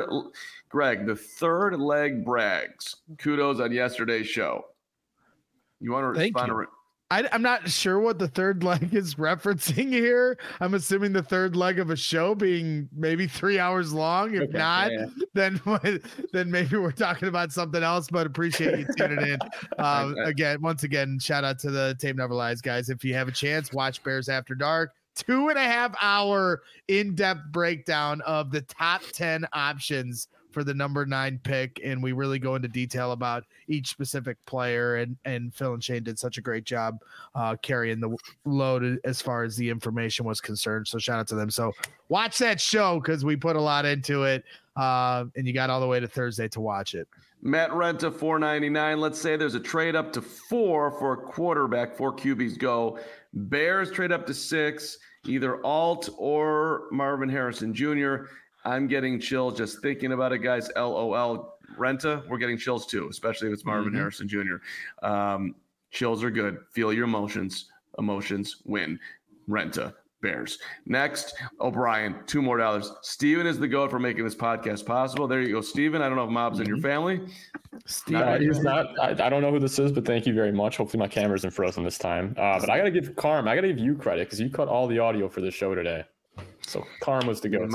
leg Braggs. Kudos on yesterday's show. You want to respond? I'm not sure what the third leg is referencing here. I'm assuming the third leg of a show being maybe 3 hours long. If not, then maybe we're talking about something else, but appreciate you tuning in. Once again, shout out to the Tape Never Lies guys. If you have a chance, watch Bears After Dark. 2.5 hour in-depth breakdown of the top 10 options for the number 9 pick, and we really go into detail about each specific player, and Phil and Shane did such a great job carrying the load as far as the information was concerned. So shout out to them. So watch that show because we put a lot into it, and you got all the way to Thursday to watch it. Matt Renta $4.99. Let's say there's a trade up to 4 for a quarterback. 4 QBs go. Bears trade up to 6, either Alt or Marvin Harrison Jr. I'm getting chills just thinking about it, guys. LOL. Renta, we're getting chills too, especially if it's Marvin Harrison Jr. Chills are good. Feel your emotions. Emotions win. Renta, Bears. Next, O'Brien, $2 more. Steven is the GOAT for making this podcast possible. There you go, Steven. I don't know if Mob's in your family. He's not. I don't know who this is, but thank you very much. Hopefully my camera isn't frozen this time. But I got to give you credit because you cut all the audio for the show today. So Carm was the go.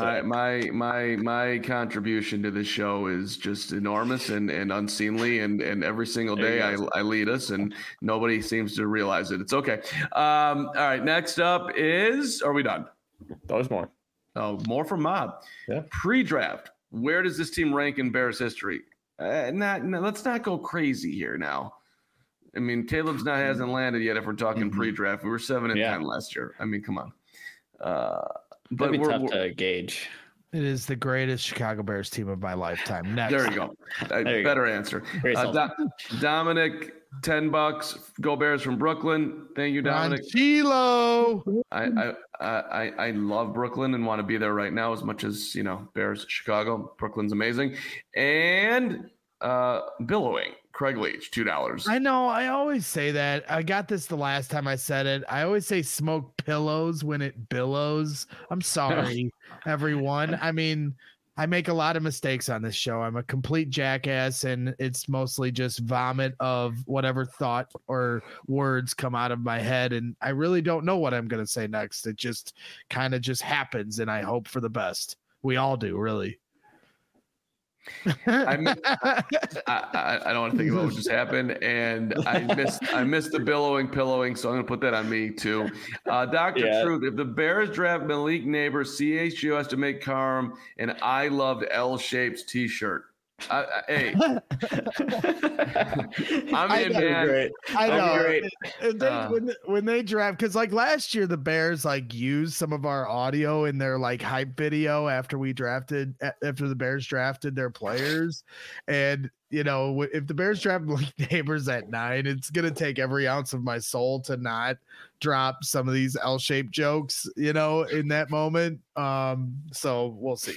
My contribution to this show is just enormous and unseemly, and every single day I lead us, and nobody seems to realize it. It's okay. All right, next up is, are we done? There's more. Oh, more from Mob. Yeah. Pre-draft. Where does this team rank in Bears history? Let's not go crazy here now. I mean, Caleb's hasn't landed yet. If we're talking pre-draft, we were 7-10 last year. I mean, come on. But it'd be tough to gauge. It is the greatest Chicago Bears team of my lifetime. Next. There you go. Better answer. Dominic, $10. Go Bears from Brooklyn. Thank you, Dominic. Chilo. I love Brooklyn and want to be there right now as much as Bears, Chicago. Brooklyn's amazing. And billowing. Craig Leach, $2. I know. I always say that. I got this the last time I said it. I always say smoke pillows when it billows. I'm sorry, everyone. I mean, I make a lot of mistakes on this show. I'm a complete jackass, and it's mostly just vomit of whatever thought or words come out of my head. And I really don't know what I'm going to say next. It just kind of just happens, and I hope for the best. We all do, really. I don't want to think about what just happened, and I missed the pillowing, so I'm going to put that on me too. Dr. Truth, if the Bears draft Malik Neighbors, CHGO has to make Carm an I loved L-shaped T-shirt. Hey, I'm in, man. Great. I know. When they draft, because like last year, the Bears like used some of our audio in their like hype video after the Bears drafted their players, and you know, if the Bears draft Malik Neighbors at 9, it's gonna take every ounce of my soul to not drop some of these L-shaped jokes, you know, in that moment. So we'll see.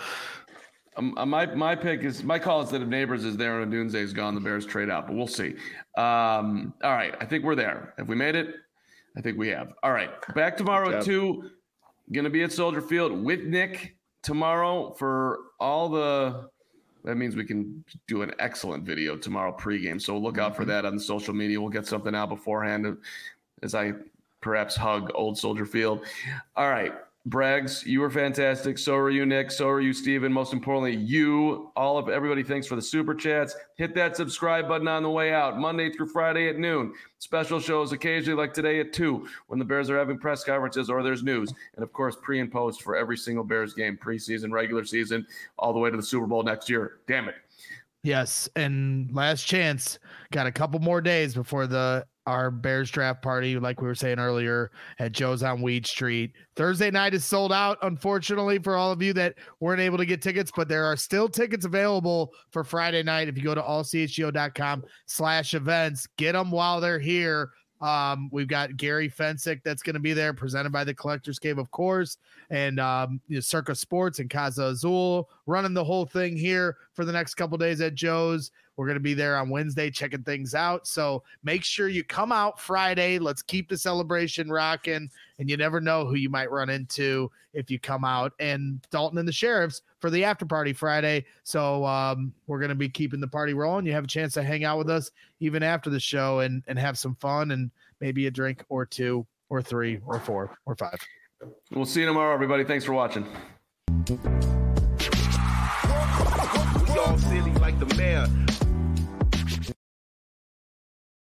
My pick is my call is that if Neighbors is there and Odunze is gone, the Bears trade out, but we'll see. All right, I think we're there. Have we made it? I think we have. All right, back tomorrow at 2. Going to be at Soldier Field with Nick tomorrow for all the. That means we can do an excellent video tomorrow pregame. So look out for that on the social media. We'll get something out beforehand as I perhaps hug old Soldier Field. All right. Braggs, you were fantastic. So are you, Nick. So are you, Steven. Most importantly, everybody, thanks for the super chats. Hit that subscribe button on the way out. Monday through Friday at noon. Special shows occasionally like today at 2 when the Bears are having press conferences or there's news. And, of course, pre and post for every single Bears game, preseason, regular season, all the way to the Super Bowl next year. Damn it. Yes, and last chance. Got a couple more days before our Bears draft party, like we were saying earlier, at Joe's on Weed Street. Thursday night is sold out, unfortunately, for all of you that weren't able to get tickets, but there are still tickets available for Friday night. If you go to allchgo.com/events, get them while they're here. We've got Gary Fensick that's going to be there, presented by the Collectors Cave, of course, and Circa Sports and Casa Azul running the whole thing here for the next couple days at Joe's. We're going to be there on Wednesday checking things out. So make sure you come out Friday. Let's keep the celebration rocking. And you never know who you might run into if you come out. And Dalton and the Sheriffs for the after party Friday. So we're going to be keeping the party rolling. You have a chance to hang out with us even after the show and have some fun and maybe a drink or 2 or 3 or 4 or 5. We'll see you tomorrow, everybody. Thanks for watching. We all silly like the mayor.